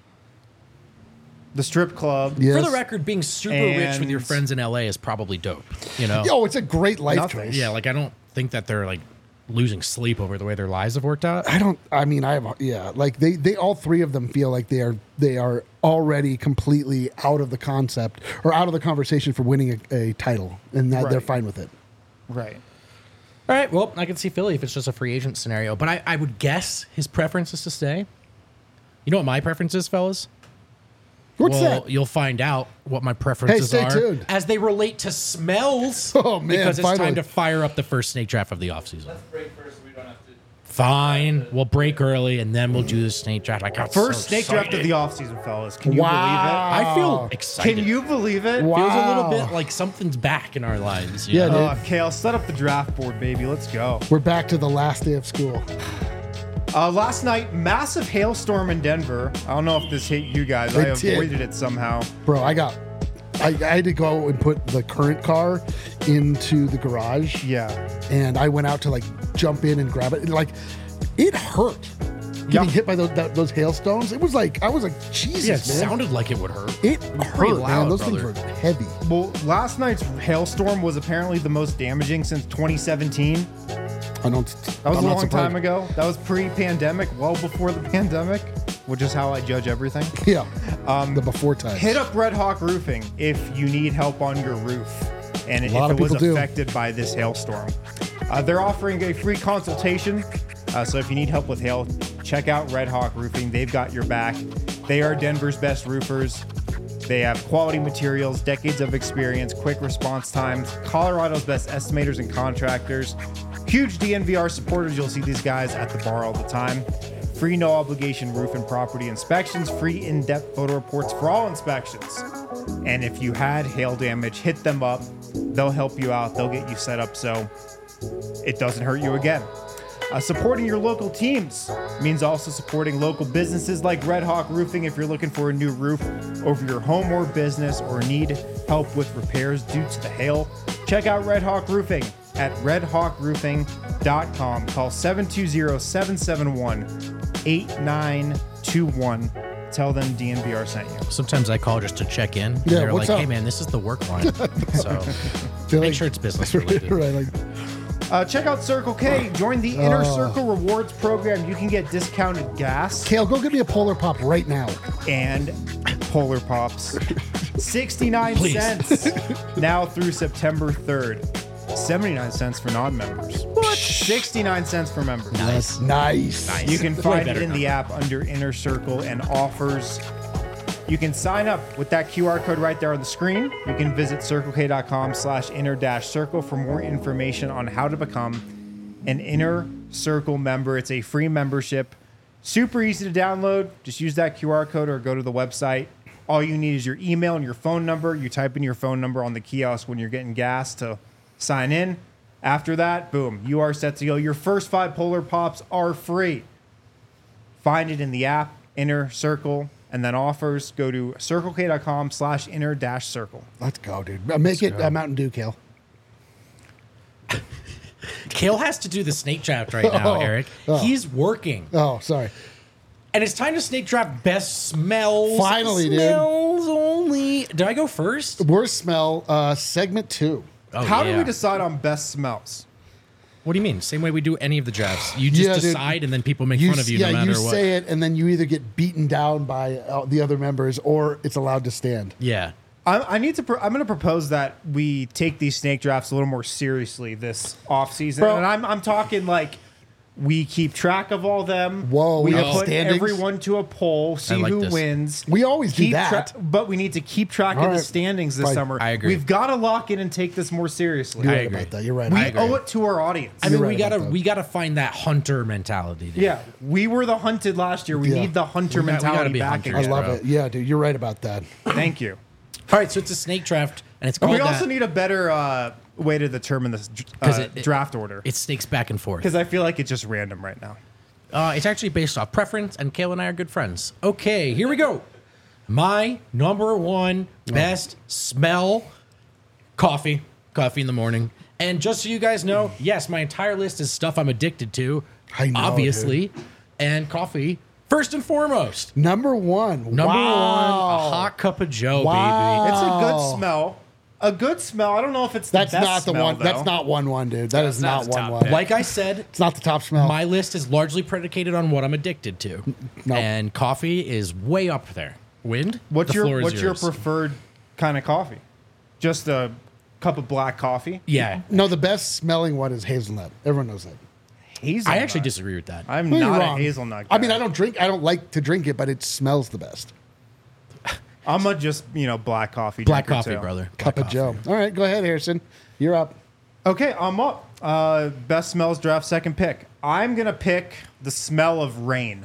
The strip club. Yes. For the record, being super rich with your And- friends in LA is probably dope. You know? Yo, it's a great life Nothing. choice. Yeah, like I don't think that they're like losing sleep over the way their lives have worked out. Like they all three of them feel like they are already completely out of the concept or out of the conversation for winning a title, and that they're Right. fine with it. Right. All right, well, I can see Philly if it's just a free agent scenario, but I would guess his preference is to stay. You know what my preference is, fellas? What's well, that? you'll find out what my preferences stay are tuned. as they relate to smells. Oh, man, because it's finally. time to fire up the first snake draft of the offseason. Let's break first so we don't have to. Fine, we'll break early and then we'll do the snake draft. I got First so snake draft of excited. the offseason, fellas. Can you Wow. I feel believe it? excited. Can you believe it? Wow. Feels a little bit like something's back in our lives. You Yeah, know? dude. Kale, set up the draft board, baby. Let's go. We're back to the last day of school. Last night, massive hailstorm in Denver. I don't know if this hit you guys. I It did. avoided it somehow. Bro, I had to go and put the current car into the garage. Yeah. And I went out to like jump in and grab it. And, like, it hurt getting Yeah. hit by those hailstones. It was like, I was like, Jesus, Yeah, man. it sounded like it would hurt. It pretty hurt, man. loud, Those brother. things were heavy. Well, last night's hailstorm was apparently the most damaging since 2017. That That was a long time ago. That was pre-pandemic, well before the pandemic, which is how I judge everything. Yeah. The before time. Hit up Red Hawk Roofing if you need help on your roof and if lot it of was people do. affected by this hailstorm. They're offering a free consultation. So if you need help with hail, check out Red Hawk Roofing. They've got your back. They are Denver's best roofers. They have quality materials, decades of experience, quick response times, Colorado's best estimators and contractors. Huge DNVR supporters. You'll see these guys at the bar all the time. Free no obligation roof and property inspections, free in-depth photo reports for all inspections. And if you had hail damage, hit them up. They'll help you out. They'll get you set up so it doesn't hurt you again. Supporting your local teams means also supporting local businesses like Red Hawk Roofing if you're looking for a new roof over your home or business or need help with repairs due to the hail. Check out Red Hawk Roofing at redhawkroofing.com. Call 720-771-8921. Tell them DNVR sent you. Sometimes I call just to check in. And Yeah, they're what's like, up? hey, man, this is the work line. So Feel make like- sure it's business related. right, like, Check out Circle K. Join the Inner Circle Rewards program. You can get discounted gas Kale, go get me a Polar Pop right now. and Polar Pops. 69 Please. cents now through September 3rd. 79 cents for non-members. What? 69 cents for members. Nice. Nice. You can Way find it better in the app under Inner Circle and offers. You can sign up with that QR code right there on the screen. You can visit circlek.com/inner-circle for more information on how to become an Inner Circle member. It's a free membership. Super easy to download. Just use that QR code or go to the website. All you need is your email and your phone number. You type in your phone number on the kiosk when you're getting gas to sign in. After that, boom, you are set to go. Your first 5 Polar Pops are free. Find it in the app, Inner Circle, and then offers. Go to circlek.com/inner-circle. Let's go, dude. Make it Mountain Dew, Kale. Kale has to do the snake draft right now, Oh, Eric. oh. He's working. Oh, sorry. And it's time to snake draft best smells. Finally, dude. Smells only. Did I go first? Worst smell, segment 2. Oh, How do yeah. we decide on best smells? What do you mean? Same way we do any of the drafts. You just Yeah, dude. decide, and then people make fun of you no matter you what. say it, and then you either get beaten down by the other members, or it's allowed to stand. Yeah. I'm going to propose that we take these snake drafts a little more seriously this off season, Bro. and I'm talking like we keep track of all them. Whoa, we we have put standings? everyone to a poll, see like who this. wins. We always do Keep that. but we need to keep track All of the right. standings this Fine. summer. I agree. We've got to lock in and take this more seriously. You're I right agree. about that. You're right. We about that. owe it to our audience. I mean, You're we right about gotta that. we gotta find that hunter mentality. Dude. Yeah, we were the hunted last year. We Yeah. need the hunter We gotta mentality be back hunters, I again. love bro. it. Yeah, dude, you're right about that. Thank you. All right, so it's a snake draft, and it's And called we also that. need a better way to determine this 'Cause it- draft order. It snakes back and forth. Because I feel like it's just random right now. It's actually based off preference, and Kale and I are good friends. Okay, here we go. My number one best smell: coffee. Coffee in the morning. And just so you guys know, yes, my entire list is stuff I'm addicted to. I know, obviously, and coffee first and foremost. Number one. Number one, a hot cup of Joe, Wow. baby. It's a Oh. good smell. A good smell. I don't know if it's That's the best not the smell, one. though. That's not 1-1, dude. That is not not the top 1-1. pick. Like I said, It's not the top smell. my list is largely predicated on what I'm addicted to, No. and coffee is way up there. Wind. What's the floor your is what's your yours. preferred kind of coffee? Just a cup of black coffee? Yeah, No, the best smelling one is hazelnut. Everyone knows that. Hazelnut. I actually disagree with that. I'm Well, you're not a wrong. hazelnut guy. I mean, I don't like to drink it, but it smells the best. I'm a just, black coffee Black drinker, coffee, too. brother. Cup Black of coffee. Joe. All right, go ahead, Harrison. You're up. Okay, I'm up. Best smells draft second pick. I'm going to pick the smell of rain.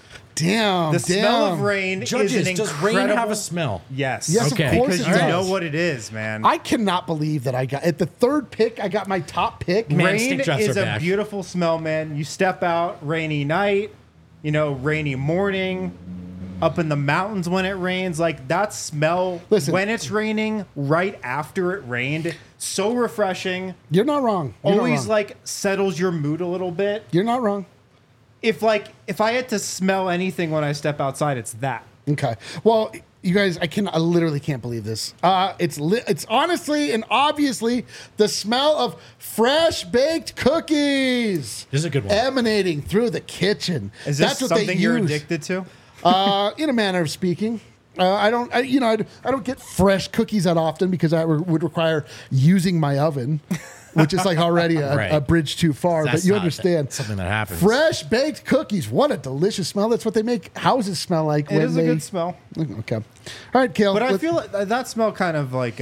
Damn. The damn. smell of rain Judges, is an does incredible... rain have a smell? Yes. Yes, Okay. of course Because it you does. know what it is, man. I cannot believe that I got at the third pick. I got my top pick. Man, Rain snake drafts is are a back. beautiful smell, man. You step out, rainy night, rainy morning, up in the mountains when it rains. Like that smell Listen. when it's raining, right after it rained, so refreshing. You're not wrong. You're not Always wrong. like settles your mood a little bit. You're not wrong. If I had to smell anything when I step outside, it's that. Okay. Well, you guys, I literally can't believe this. It's honestly and obviously the smell of fresh baked cookies. This is a good one. Emanating through the kitchen. Is this That's what they something you're use. addicted to? In a manner of speaking. I don't get fresh cookies that often because that would require using my oven, which is like already Right. a bridge too far. That's but you not understand. something that happens. Fresh baked cookies. What a delicious smell. That's what they make houses smell like. It is a good smell. Okay. All right, Kale. But I feel like that smell kind of like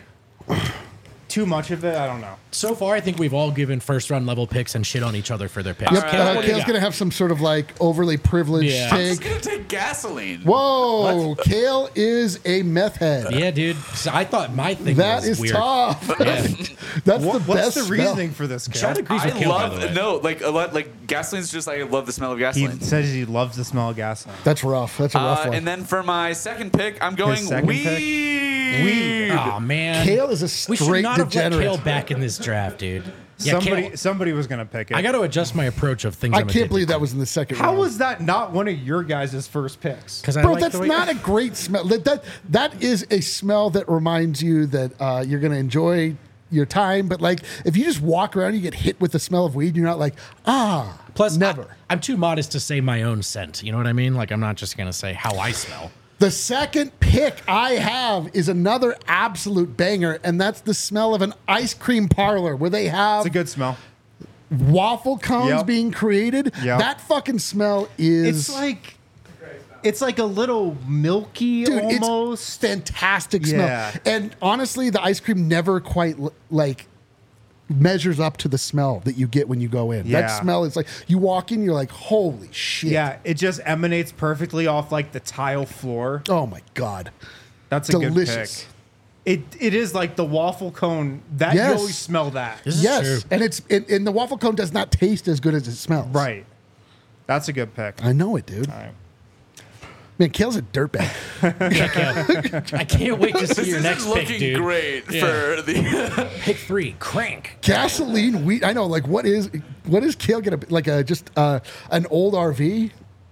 too much of it. I don't know. So far, I think we've all given first round level picks and shit on each other for their picks. Yep, Kale, what do you Kale's got? going to have some sort of like overly privileged Yeah. I'm just take. gonna take gasoline. Whoa, Kale is a meth head. Yeah, dude. So I thought my thing That was is weird. tough. Yeah. That's the What's best the smell. reasoning for this, Chad Kale? agrees I with Kale, by the way. love a lot like gasoline's just I love the smell of He gasoline. says he loves the smell of gasoline. That's rough. That's a rough one. And then for my second pick, I'm going second weed. pick? Weed. Oh man, Kale is a we should straight not have let degenerate. Kale back in this draft, dude. Yeah, Kale, Somebody was gonna pick it. I got to adjust my approach of things. I can't believe that was in the second How round. was that not one of your guys' first picks? because I Bro, like that's the way not a great smell. That is a smell that reminds you that you're going to enjoy your time. But like, if you just walk around, you get hit with the smell of weed. You're not like, Plus, never. I'm too modest to say my own scent. You know what I mean? Like, I'm not just gonna say how I smell. The second pick I have is another absolute banger, and that's the smell of an ice cream parlor where they have It's a good smell. waffle cones Yep. being created. Yep. That fucking smell is It's like a little milky dude, almost. it's fantastic Yeah. smell. And honestly, the ice cream never quite like measures up to the smell that you get when you go in. Yeah. That smell is like you walk in, you're like, holy shit. Yeah, it just emanates perfectly off like the tile floor. Oh my god. That's a Delicious. good pick. It is like the waffle cone that Yes. you always smell that. This is Yes. true. And and the waffle cone does not taste as good as it smells. Right. That's a good pick. I know it, dude. All right. Man, Kale's a dirtbag. Yeah, Kale. I can't wait to see This your isn't next pick, looking dude. great Yeah. for the. Pick 3, crank. Gasoline weed. I know, like what is Kale gonna be? Like just an old RV?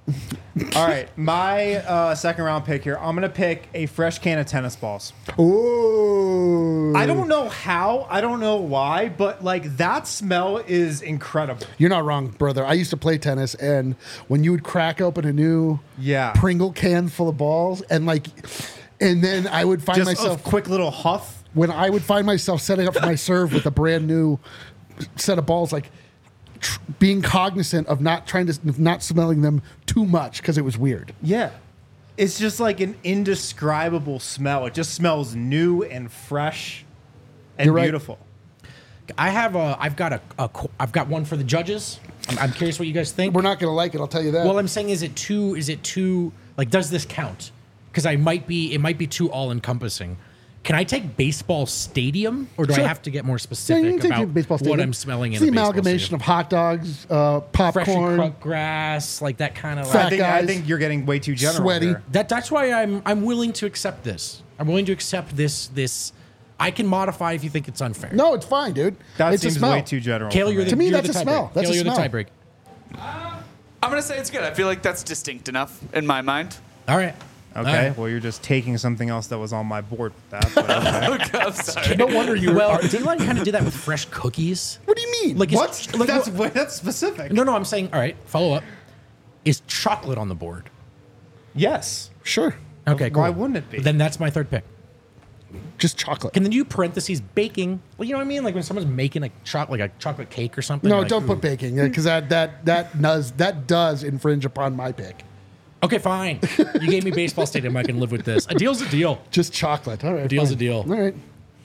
All right, my second round pick here. I'm gonna pick a fresh can of tennis balls. Ooh. I don't know how, I don't know why, but like that smell is incredible. You're not wrong, brother. I used to play tennis, and when you would crack open a new Yeah. Pringle can full of balls, and then I would find Just myself a quick little huff. when I would find myself setting up for my serve with a brand new set of balls, like being cognizant of not smelling them too much because it was weird. Yeah. It's just like an indescribable smell. It just smells new and fresh and You're right. beautiful. I've got one for the judges. I'm curious what you guys think. We're not going to like it, I'll tell you that. Well, I'm saying, is it too, like, does this count? Because it might be too all encompassing. Can I take baseball stadium, or do Sure. I have to get more Yeah, specific you can take about your baseball what stadium. I'm smelling It's in the a baseball amalgamation stadium? of hot dogs, Freshly popcorn. cut grass, like that kind of Fat like, guys. I think you're getting way too general. Sweaty. here. that's why I'm willing to accept this. I'm willing to accept this. I can modify if you think it's unfair. No, it's fine, dude. That it's seems a smell. way too general. Kale, for you're me. the To me, you're that's the a smell. tiebreak. That's Kale, a you're the smell. tiebreak. I'm gonna say it's good. I feel like that's distinct enough in my mind. All right. Okay, All right. well, you're just taking something else that was on my board with that. But okay. I'm sorry. No wonder you Well, were. didn't I kind of do that with fresh cookies? What do you mean? Like, What? Like, That's specific. no, I'm saying, all right, follow up. Is chocolate on the board? Yes. Sure. Okay, cool. Why wouldn't it be? Then that's my third pick. Just chocolate. Can then you parentheses baking? Well, you know what I mean? Like when someone's making a chocolate cake or something. No, like, don't ooh. put baking because that does infringe upon my pick. Okay, fine. You gave me baseball stadium. I can live with this. A deal's a deal. Just chocolate. All right. deal's fine. a deal. All right.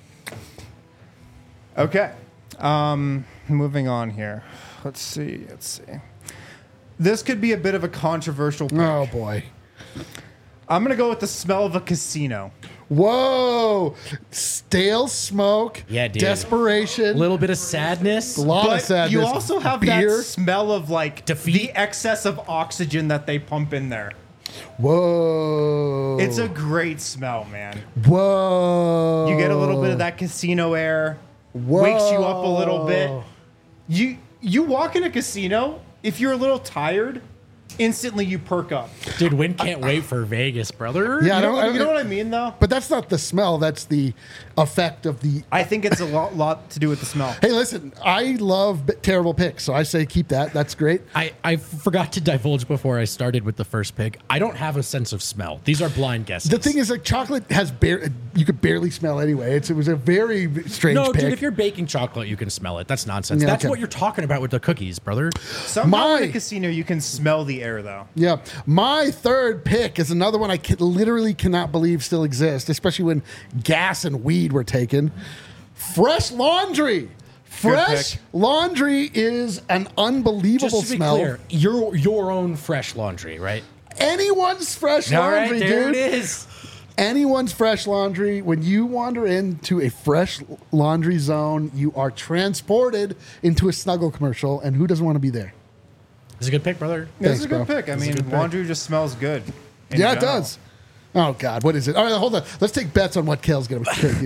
Okay. Moving on here. Let's see. This could be a bit of a controversial pick. Oh boy. I'm going to go with the smell of a casino. Whoa. Stale smoke. Yeah, dude. Desperation. A little bit of sadness. A lot of But sadness. you also have beer. that smell of like Defeat. the excess of oxygen that they pump in there. Whoa. It's a great smell, man. Whoa. You get a little bit of that casino air. Whoa. Wakes you up a little bit. You walk in a casino, if you're a little tired, instantly you perk up. Dude, Win can't wait for Vegas, brother. Yeah, You know what I mean, though? But that's not the smell. That's the effect of the. I think it's a lot to do with the smell. Hey, listen, I love terrible picks, so I say keep that. That's great. I forgot to divulge before I started with the first pick. I don't have a sense of smell. These are blind guesses. The thing is, like, chocolate has you could barely smell anyway. It was a very strange no, pick. dude, if you're baking chocolate, you can smell it. That's nonsense. Yeah, That's okay. what you're talking about with the cookies, brother. Somehow in a casino, you can smell the air, though. Yeah, my third pick is another one I literally cannot believe still exists, especially when gas and weed were taken. Fresh laundry. Fresh pick. laundry is an unbelievable Just to be smell. clear, your own fresh laundry, right? Anyone's fresh All right, laundry, there dude. it is. Anyone's fresh laundry. When you wander into a fresh laundry zone, you are transported into a Snuggle commercial, and who doesn't want to be there? It's a good pick, brother. This Thanks, is a good bro. pick. I This is a mean, good pick. laundry just smells good. in Yeah, it general. does. Oh God, what is it? All right, hold on. Let's take bets on what Kale's gonna pick.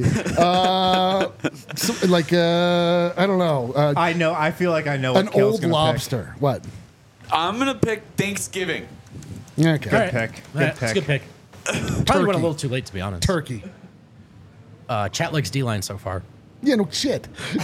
I don't know. I know. I feel like I know what An Kale's old gonna lobster. What? I'm gonna pick Thanksgiving. Okay. Good pick. All right, it's a good pick. Probably went a Turkey. little too late, to be honest. Turkey. Chat likes D-line so far. Yeah, no shit.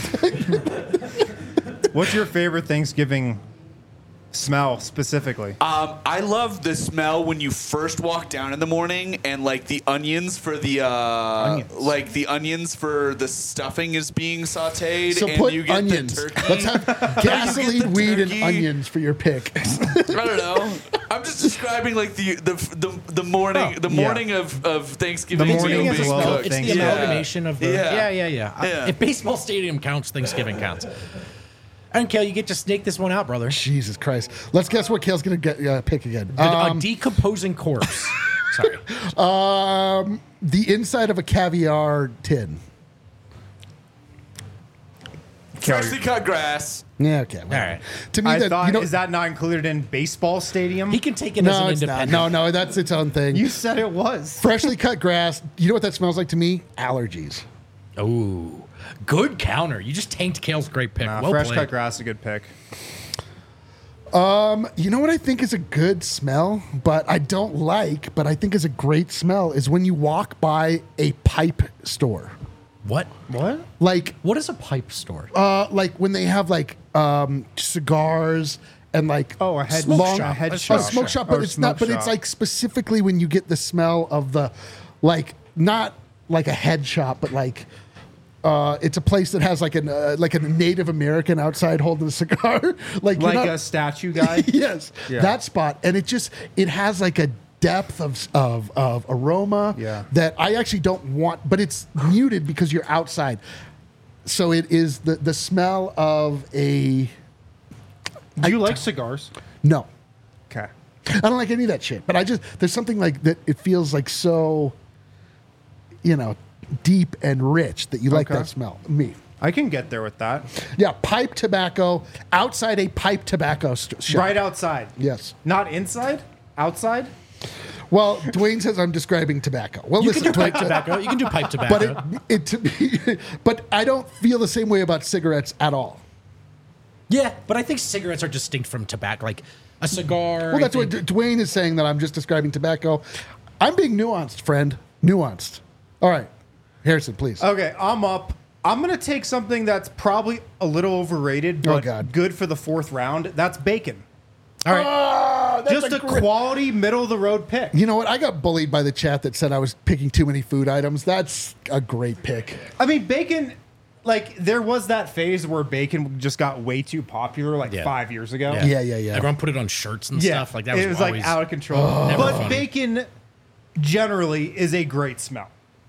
What's your favorite Thanksgiving smell specifically? I love the smell when you first walk down in the morning and like the onions for the like the onions for the stuffing is being sauteed. So and put you get onions. The turkey. Let's have gasoline, the weed, and turkey. onions for your pick. I don't know. I'm just describing like the morning morning of Thanksgiving. The morning meal of the being well, cooked. It's the Thanksgiving. amalgamation of the. Yeah. Yeah. If baseball stadium counts, Thanksgiving counts. And Kale, you get to snake this one out, brother. Jesus Christ. Let's guess what Kale's gonna get pick again. A decomposing corpse. Sorry. The inside of a caviar tin. Freshly cut grass. Yeah, okay. All right. To me, I thought, you know, is that not included in baseball stadium? He can take it as no, an it's not. independent. No, that's its own thing. You said it was. Freshly cut grass. You know what that smells like to me? Allergies. Ooh. Good counter. You just tanked Kale's great pick. Nah, well fresh played. cut grass is a good pick. You know what I think is a good smell, but I don't like, but I think is a great smell is when you walk by a pipe store. What? Like, What is a pipe store? like when they have like cigars and like Oh, a head long- shop. A head a shop. smoke shop, but Or it's not. smoke But it's shop. like specifically when you get the smell of the, like not like a head shop, but like. It's a place that has like a Native American outside holding a cigar, like you're Like not- a statue guy. yes, Yeah. that spot, and it has like a depth of aroma Yeah. that I actually don't want, but it's muted because you're outside. So it is the smell of a Do you like cigars? no. Okay. I don't like any of that shit, but there's something like that. It feels like so, deep and rich that you like Okay. that smell. Me. I can get there with that. Yeah, pipe tobacco outside a pipe tobacco shop. Right outside. Yes. Not inside? Outside? Well, Dwayne says I'm describing tobacco. Well, You listen, can do pipe Dwayne, tobacco. You can do pipe tobacco. but it to me, but I don't feel the same way about cigarettes at all. Yeah, but I think cigarettes are distinct from tobacco. Like a cigar. Well, that's I what think- Dwayne is saying, that I'm just describing tobacco. I'm being nuanced, friend. Nuanced. All right, Harrison, please. Okay, I'm up. I'm going to take something that's probably a little overrated, Oh, but God. good for the fourth round. That's bacon. All right. Ah, that's Just a great- quality, middle of the road pick. You know what? I got bullied by the chat that said I was picking too many food items. That's a great pick. I mean, bacon, like, there was that phase where bacon just got way too popular, like Yeah. 5 years ago. Yeah, yeah, yeah. Everyone put it on shirts and Yeah. stuff. Like that was, it was always, like out of control. Never But funny. bacon generally is a great smell.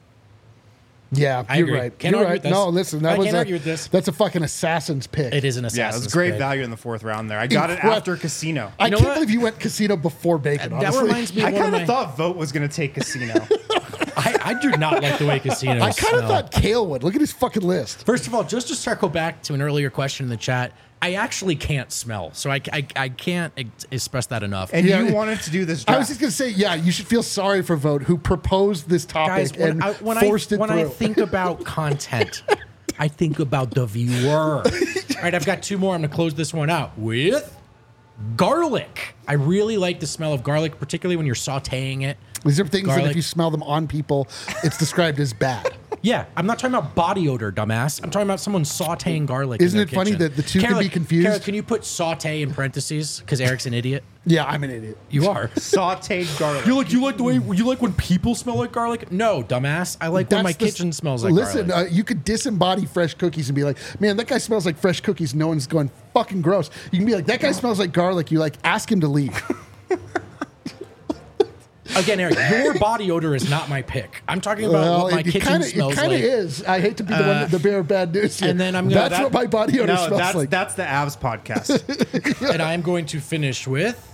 Yeah, I you're agree. right. Can't You're argue right. with this. No, listen, that I was can't a, argue with this. That's a fucking assassin's pick. It is an Yeah, it assassin's was great pick. value in the fourth round there. I got it Incre- after Casino. I You know can't what? believe you went casino before bacon. That honestly. reminds me I of one kind of of my. thought Vote was going to take Casino. I do not like the way casinos I kind of smell. thought Kale would. Look at his fucking list. First of all, just to circle back to an earlier question in the chat, I actually can't smell, so I can't express that enough. And Yeah. you wanted to do this I draft. was just gonna say, yeah, you should feel sorry for Vote, who proposed this topic Guys, and forced it when through. I think about content, I think about the viewer. All right, I've got two more. I'm going to close this one out with garlic. I really like the smell of garlic, particularly when you're sautéing it. These are things that garlic. if you smell them on people, it's described as bad. Yeah, I'm not talking about body odor, dumbass. I'm talking about someone sautéing garlic. Isn't in it their funny kitchen. that the two can Kara, be confused? Kara, can you put sauté in parentheses? Because Eric's an idiot. Yeah, I'm an idiot. You are. sauteed garlic. You like the way you like when people smell like garlic? No, dumbass. I like when my That's the- kitchen smells like Listen, garlic. you could disembody fresh cookies and be like, man, that guy smells like fresh cookies. No one's going fucking gross. You can be like, that guy smells like garlic. You like ask him to leave. Again, Eric, your body odor is not my pick. I'm talking about what my kitchen smells It kind like. of is. I hate to be the one, the bearer of bad news here. and then I'm gonna- That's what my body odor No, smells that's, like. that's the Avs podcast. And I'm going to finish with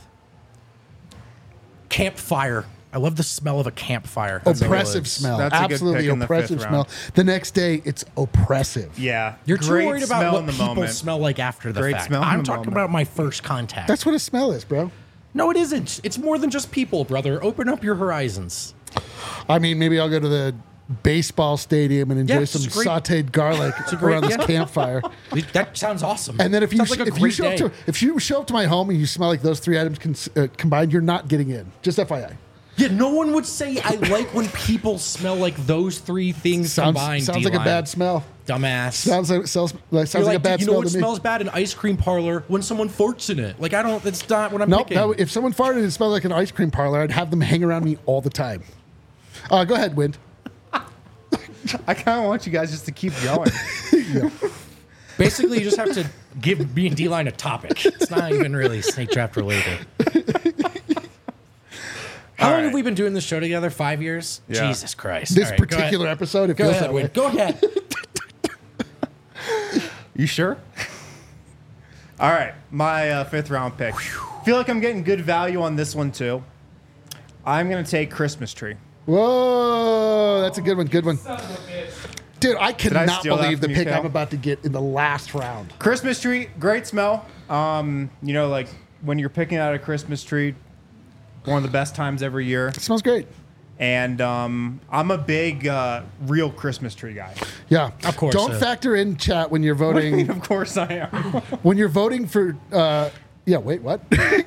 campfire. I love the smell of a campfire. Oppressive smell. That's a good Absolutely pick in the oppressive fifth smell. round. The next day, it's oppressive. Yeah. You're too Great worried about smell what in the people moment. smell like after the Great fact. smell in I'm the talking moment. about my first contact. That's what a smell is, bro. No, it isn't. It's more than just people, brother. Open up your horizons. I mean, maybe I'll go to the baseball stadium and enjoy Yeah, some it's a great- sauteed garlic a great- around this yeah. campfire. That sounds awesome. And then if you Sounds like a if you great show up day. to if you show up to my home and you smell like those three items combined, you're not getting in. Just FYI. Yeah, no one would say I like when people smell like those three things combined. Sounds like a D-line. bad smell. Dumbass. Sounds like You're a bad you know smell what to me. smells bad? An ice cream parlor when someone farts in it. Like I don't. That's not what I'm Nope. picking. If someone farted and it smelled like an ice cream parlor, I'd have them hang around me all the time. Go ahead, Wind. I kind of want you guys just to keep going. Basically, you just have to give me and D-Line a topic. It's not even really snake draft related. How long right. have we been doing this show together? 5 years? Yeah. Jesus Christ. This All right, go particular ahead. episode, it Go feels ahead, that way. Wade. Go ahead. You sure? All right, my fifth round pick. Feel like I'm getting good value on this one too. I'm gonna take Christmas tree. Whoa, that's a good one. Good one. Son of a bitch. Dude, I cannot steal that believe the from you, pick Cal? I'm about to get in the last round. Christmas tree, great smell. You know, like when you're picking out a Christmas tree, one of the best times every year. It smells great. And I'm a big real Christmas tree guy. Yeah, Of course, Don't factor in chat when you're What do you mean, voting. of course I am. When you're voting for Yeah, wait, what?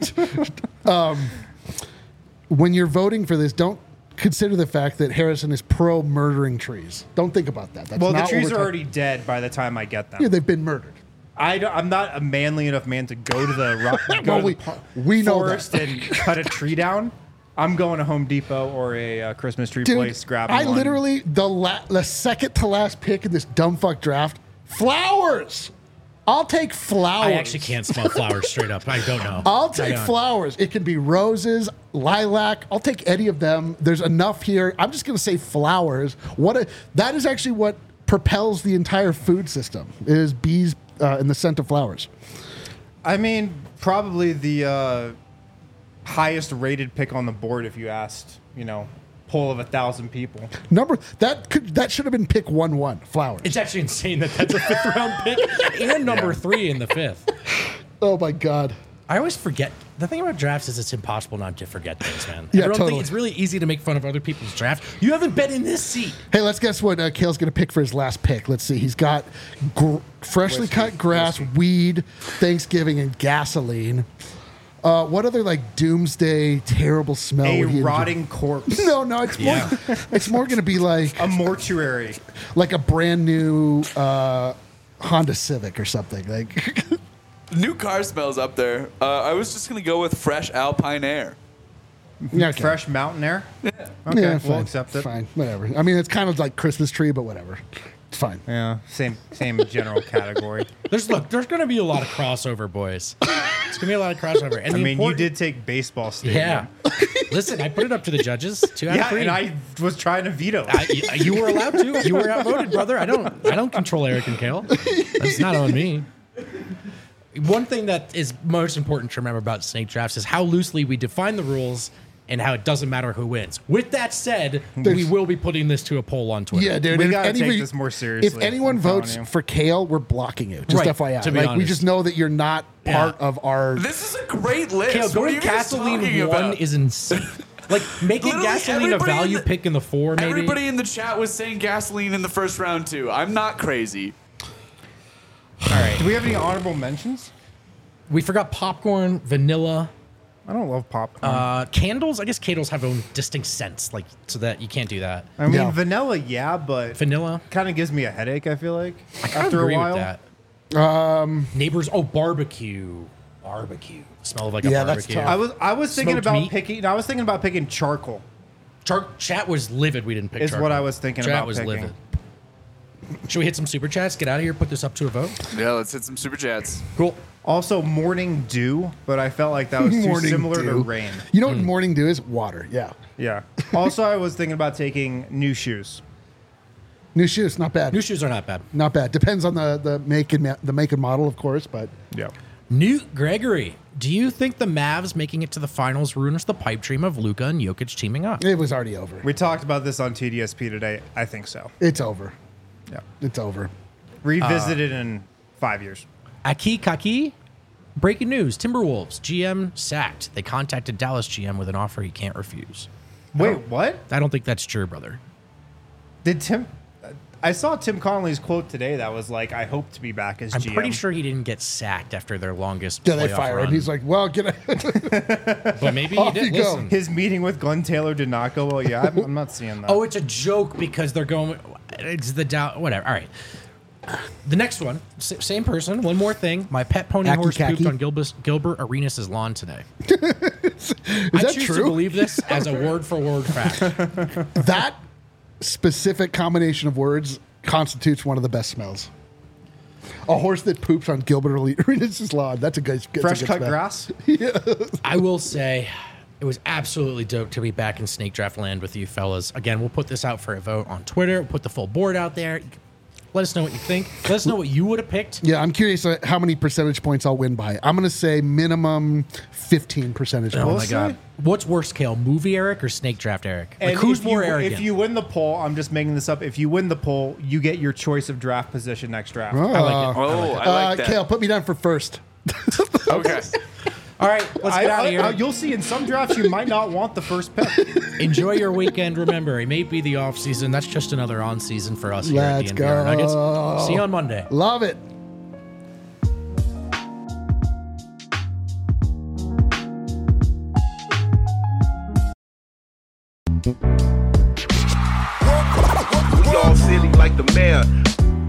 When you're voting for this, don't consider the fact that Harrison is pro murdering trees. Don't think about that. That's Well, the not what trees we're are already dead by the time I get them. Yeah, they've been murdered. I'm not a manly enough man to go to the Well, we know forest that. and cut a tree down. I'm going to Home Depot or a Christmas tree Dude, place, grabbing I one. literally, the second to last pick in this dumb fuck draft, flowers. I'll take flowers. I actually can't smell flowers straight up. I don't know. I'll I take don't. flowers. It can be roses, lilac. I'll take any of them. There's enough here. I'm just going to say flowers. That is actually what propels the entire food system, is bees in the scent of flowers. I mean, probably the highest rated pick on the board if you asked, poll of 1,000 people. That should have been pick 1-1, flowers. It's actually insane that that's a 5th round pick and number 3 in the 5th. Oh my God. I always forget. The thing about drafts is it's impossible not to forget things, man. Yeah, Everyone totally. thinks it's really easy to make fun of other people's draft. You haven't been in this seat. Hey, let's guess what Kale's going to pick for his last pick. Let's see. He's got freshly cut grass, weed, Thanksgiving, and gasoline. What other doomsday terrible smell? A would he enjoy? rotting corpse. No, it's more going to be like A mortuary. a brand new Honda Civic or something. New car smells up there. I was just gonna go with fresh Alpine air. Yeah, okay. Fresh mountain air. Okay, Yeah, we'll fine, accept it. Fine, whatever. I mean, it's kind of like Christmas tree, but whatever. It's fine. Yeah, same general category. There's going to be a lot of crossover, boys. It's going to be a lot of crossover. And I the mean, you important- did take baseball stadium. Yeah. Listen, I put it up to the judges. 2 out of Yeah, 3. and I was trying to veto. You were allowed to. You were outvoted, brother. I don't control Eric and Kale. That's not on me. One thing that is most important to remember about snake drafts is how loosely we define the rules and how it doesn't matter who wins. With that said, we will be putting this to a poll on Twitter. Yeah, dude. We if gotta take anybody- this more seriously. If anyone I'm telling votes you. for Kale, we're blocking you. Just Right, FYI. to be we honest. just know that you're not part of our. This is a great list. Kale, what are going you guys talking gasoline 1 about? is insane. Making Literally gasoline a everybody in value the- pick in the 4, maybe. Everybody in the chat was saying gasoline in the first round too. I'm not crazy. All right. Do we have any honorable mentions? We forgot popcorn, vanilla, I don't love popcorn. candles. I guess candles have their own distinct scents, so that you can't do that. I mean, Yeah. vanilla, yeah, but Vanilla. kind of gives me a headache. I feel like I kind of after agree a while. with that. Neighbors. Oh, barbecue. Barbecue. Smell of a Yeah, that's barbecue. tough. I was thinking Smoked about meat? picking. I was thinking about picking charcoal. Chat was livid. We didn't pick. Is charcoal. what I was thinking Chat about was picking. livid. Should we hit some super chats? Get out of here. Put this up to a vote. Yeah, let's hit some super chats. Cool. Also, morning dew, but I felt like that was too Morning similar to dew. rain. You know what morning dew is? Water. Yeah. Yeah. Also, I was thinking about taking new shoes. New shoes, not bad. New shoes are not bad. Not bad. Depends on the make and model, of course, but Yeah. Newt Gregory. Do you think the Mavs making it to the finals ruins the pipe dream of Luka and Jokic teaming up? it was already over. We talked about this on TDSP today. I think so. It's over. Yeah. It's over. Revisit it in 5 years. Aki Kaki. Breaking news. Timberwolves. GM sacked. They contacted Dallas GM with an offer he can't refuse. Wait, what? I don't think that's true, brother. Did Tim? I saw Tim Connolly's quote today that was like, "I hope to be back as I'm GM." pretty sure he didn't get sacked after their longest Yeah, they playoff fire run. him. He's like, well, get out. But maybe he Off did. you go. Listen. his meeting with Glenn Taylor did not go well. Yeah, I'm not seeing that. Oh, it's a joke because they're going. It's the doubt. Whatever. All right. The next one, same person. One more thing. My pet pony Aki horse Kaki. pooped on Gilbert Arenas' lawn today. Is I that choose to true? believe this as a word-for-word fact. That specific combination of words constitutes one of the best smells. A horse that poops on Gilbert Arenas' lawn. That's a good fresh cut smell. grass. I will say it was absolutely dope to be back in Snake Draft Land with you fellas. Again, we'll put this out for a vote on Twitter. We'll put the full board out there. Let us know what you think. Let us know what you would have picked. Yeah, I'm curious how many percentage points I'll win by. I'm going to say minimum 15 percentage Oh points. my We'll god. see. What's worse, Kale? Movie Eric or Snake Draft Eric? Like, And who's if more you, arrogant? If you win the poll, I'm just making this up. If you win the poll, you get your choice of draft position next draft. I like it. Oh, I like that. Kale, put me down for first. Okay. All right, let's get out of here. You'll see in some drafts you might not want the first pick. Enjoy your weekend. Remember, it may be the off season. That's just another on season for us here Let's at the NPR go. Nuggets. See you on Monday. Love it. We all city like the mayor.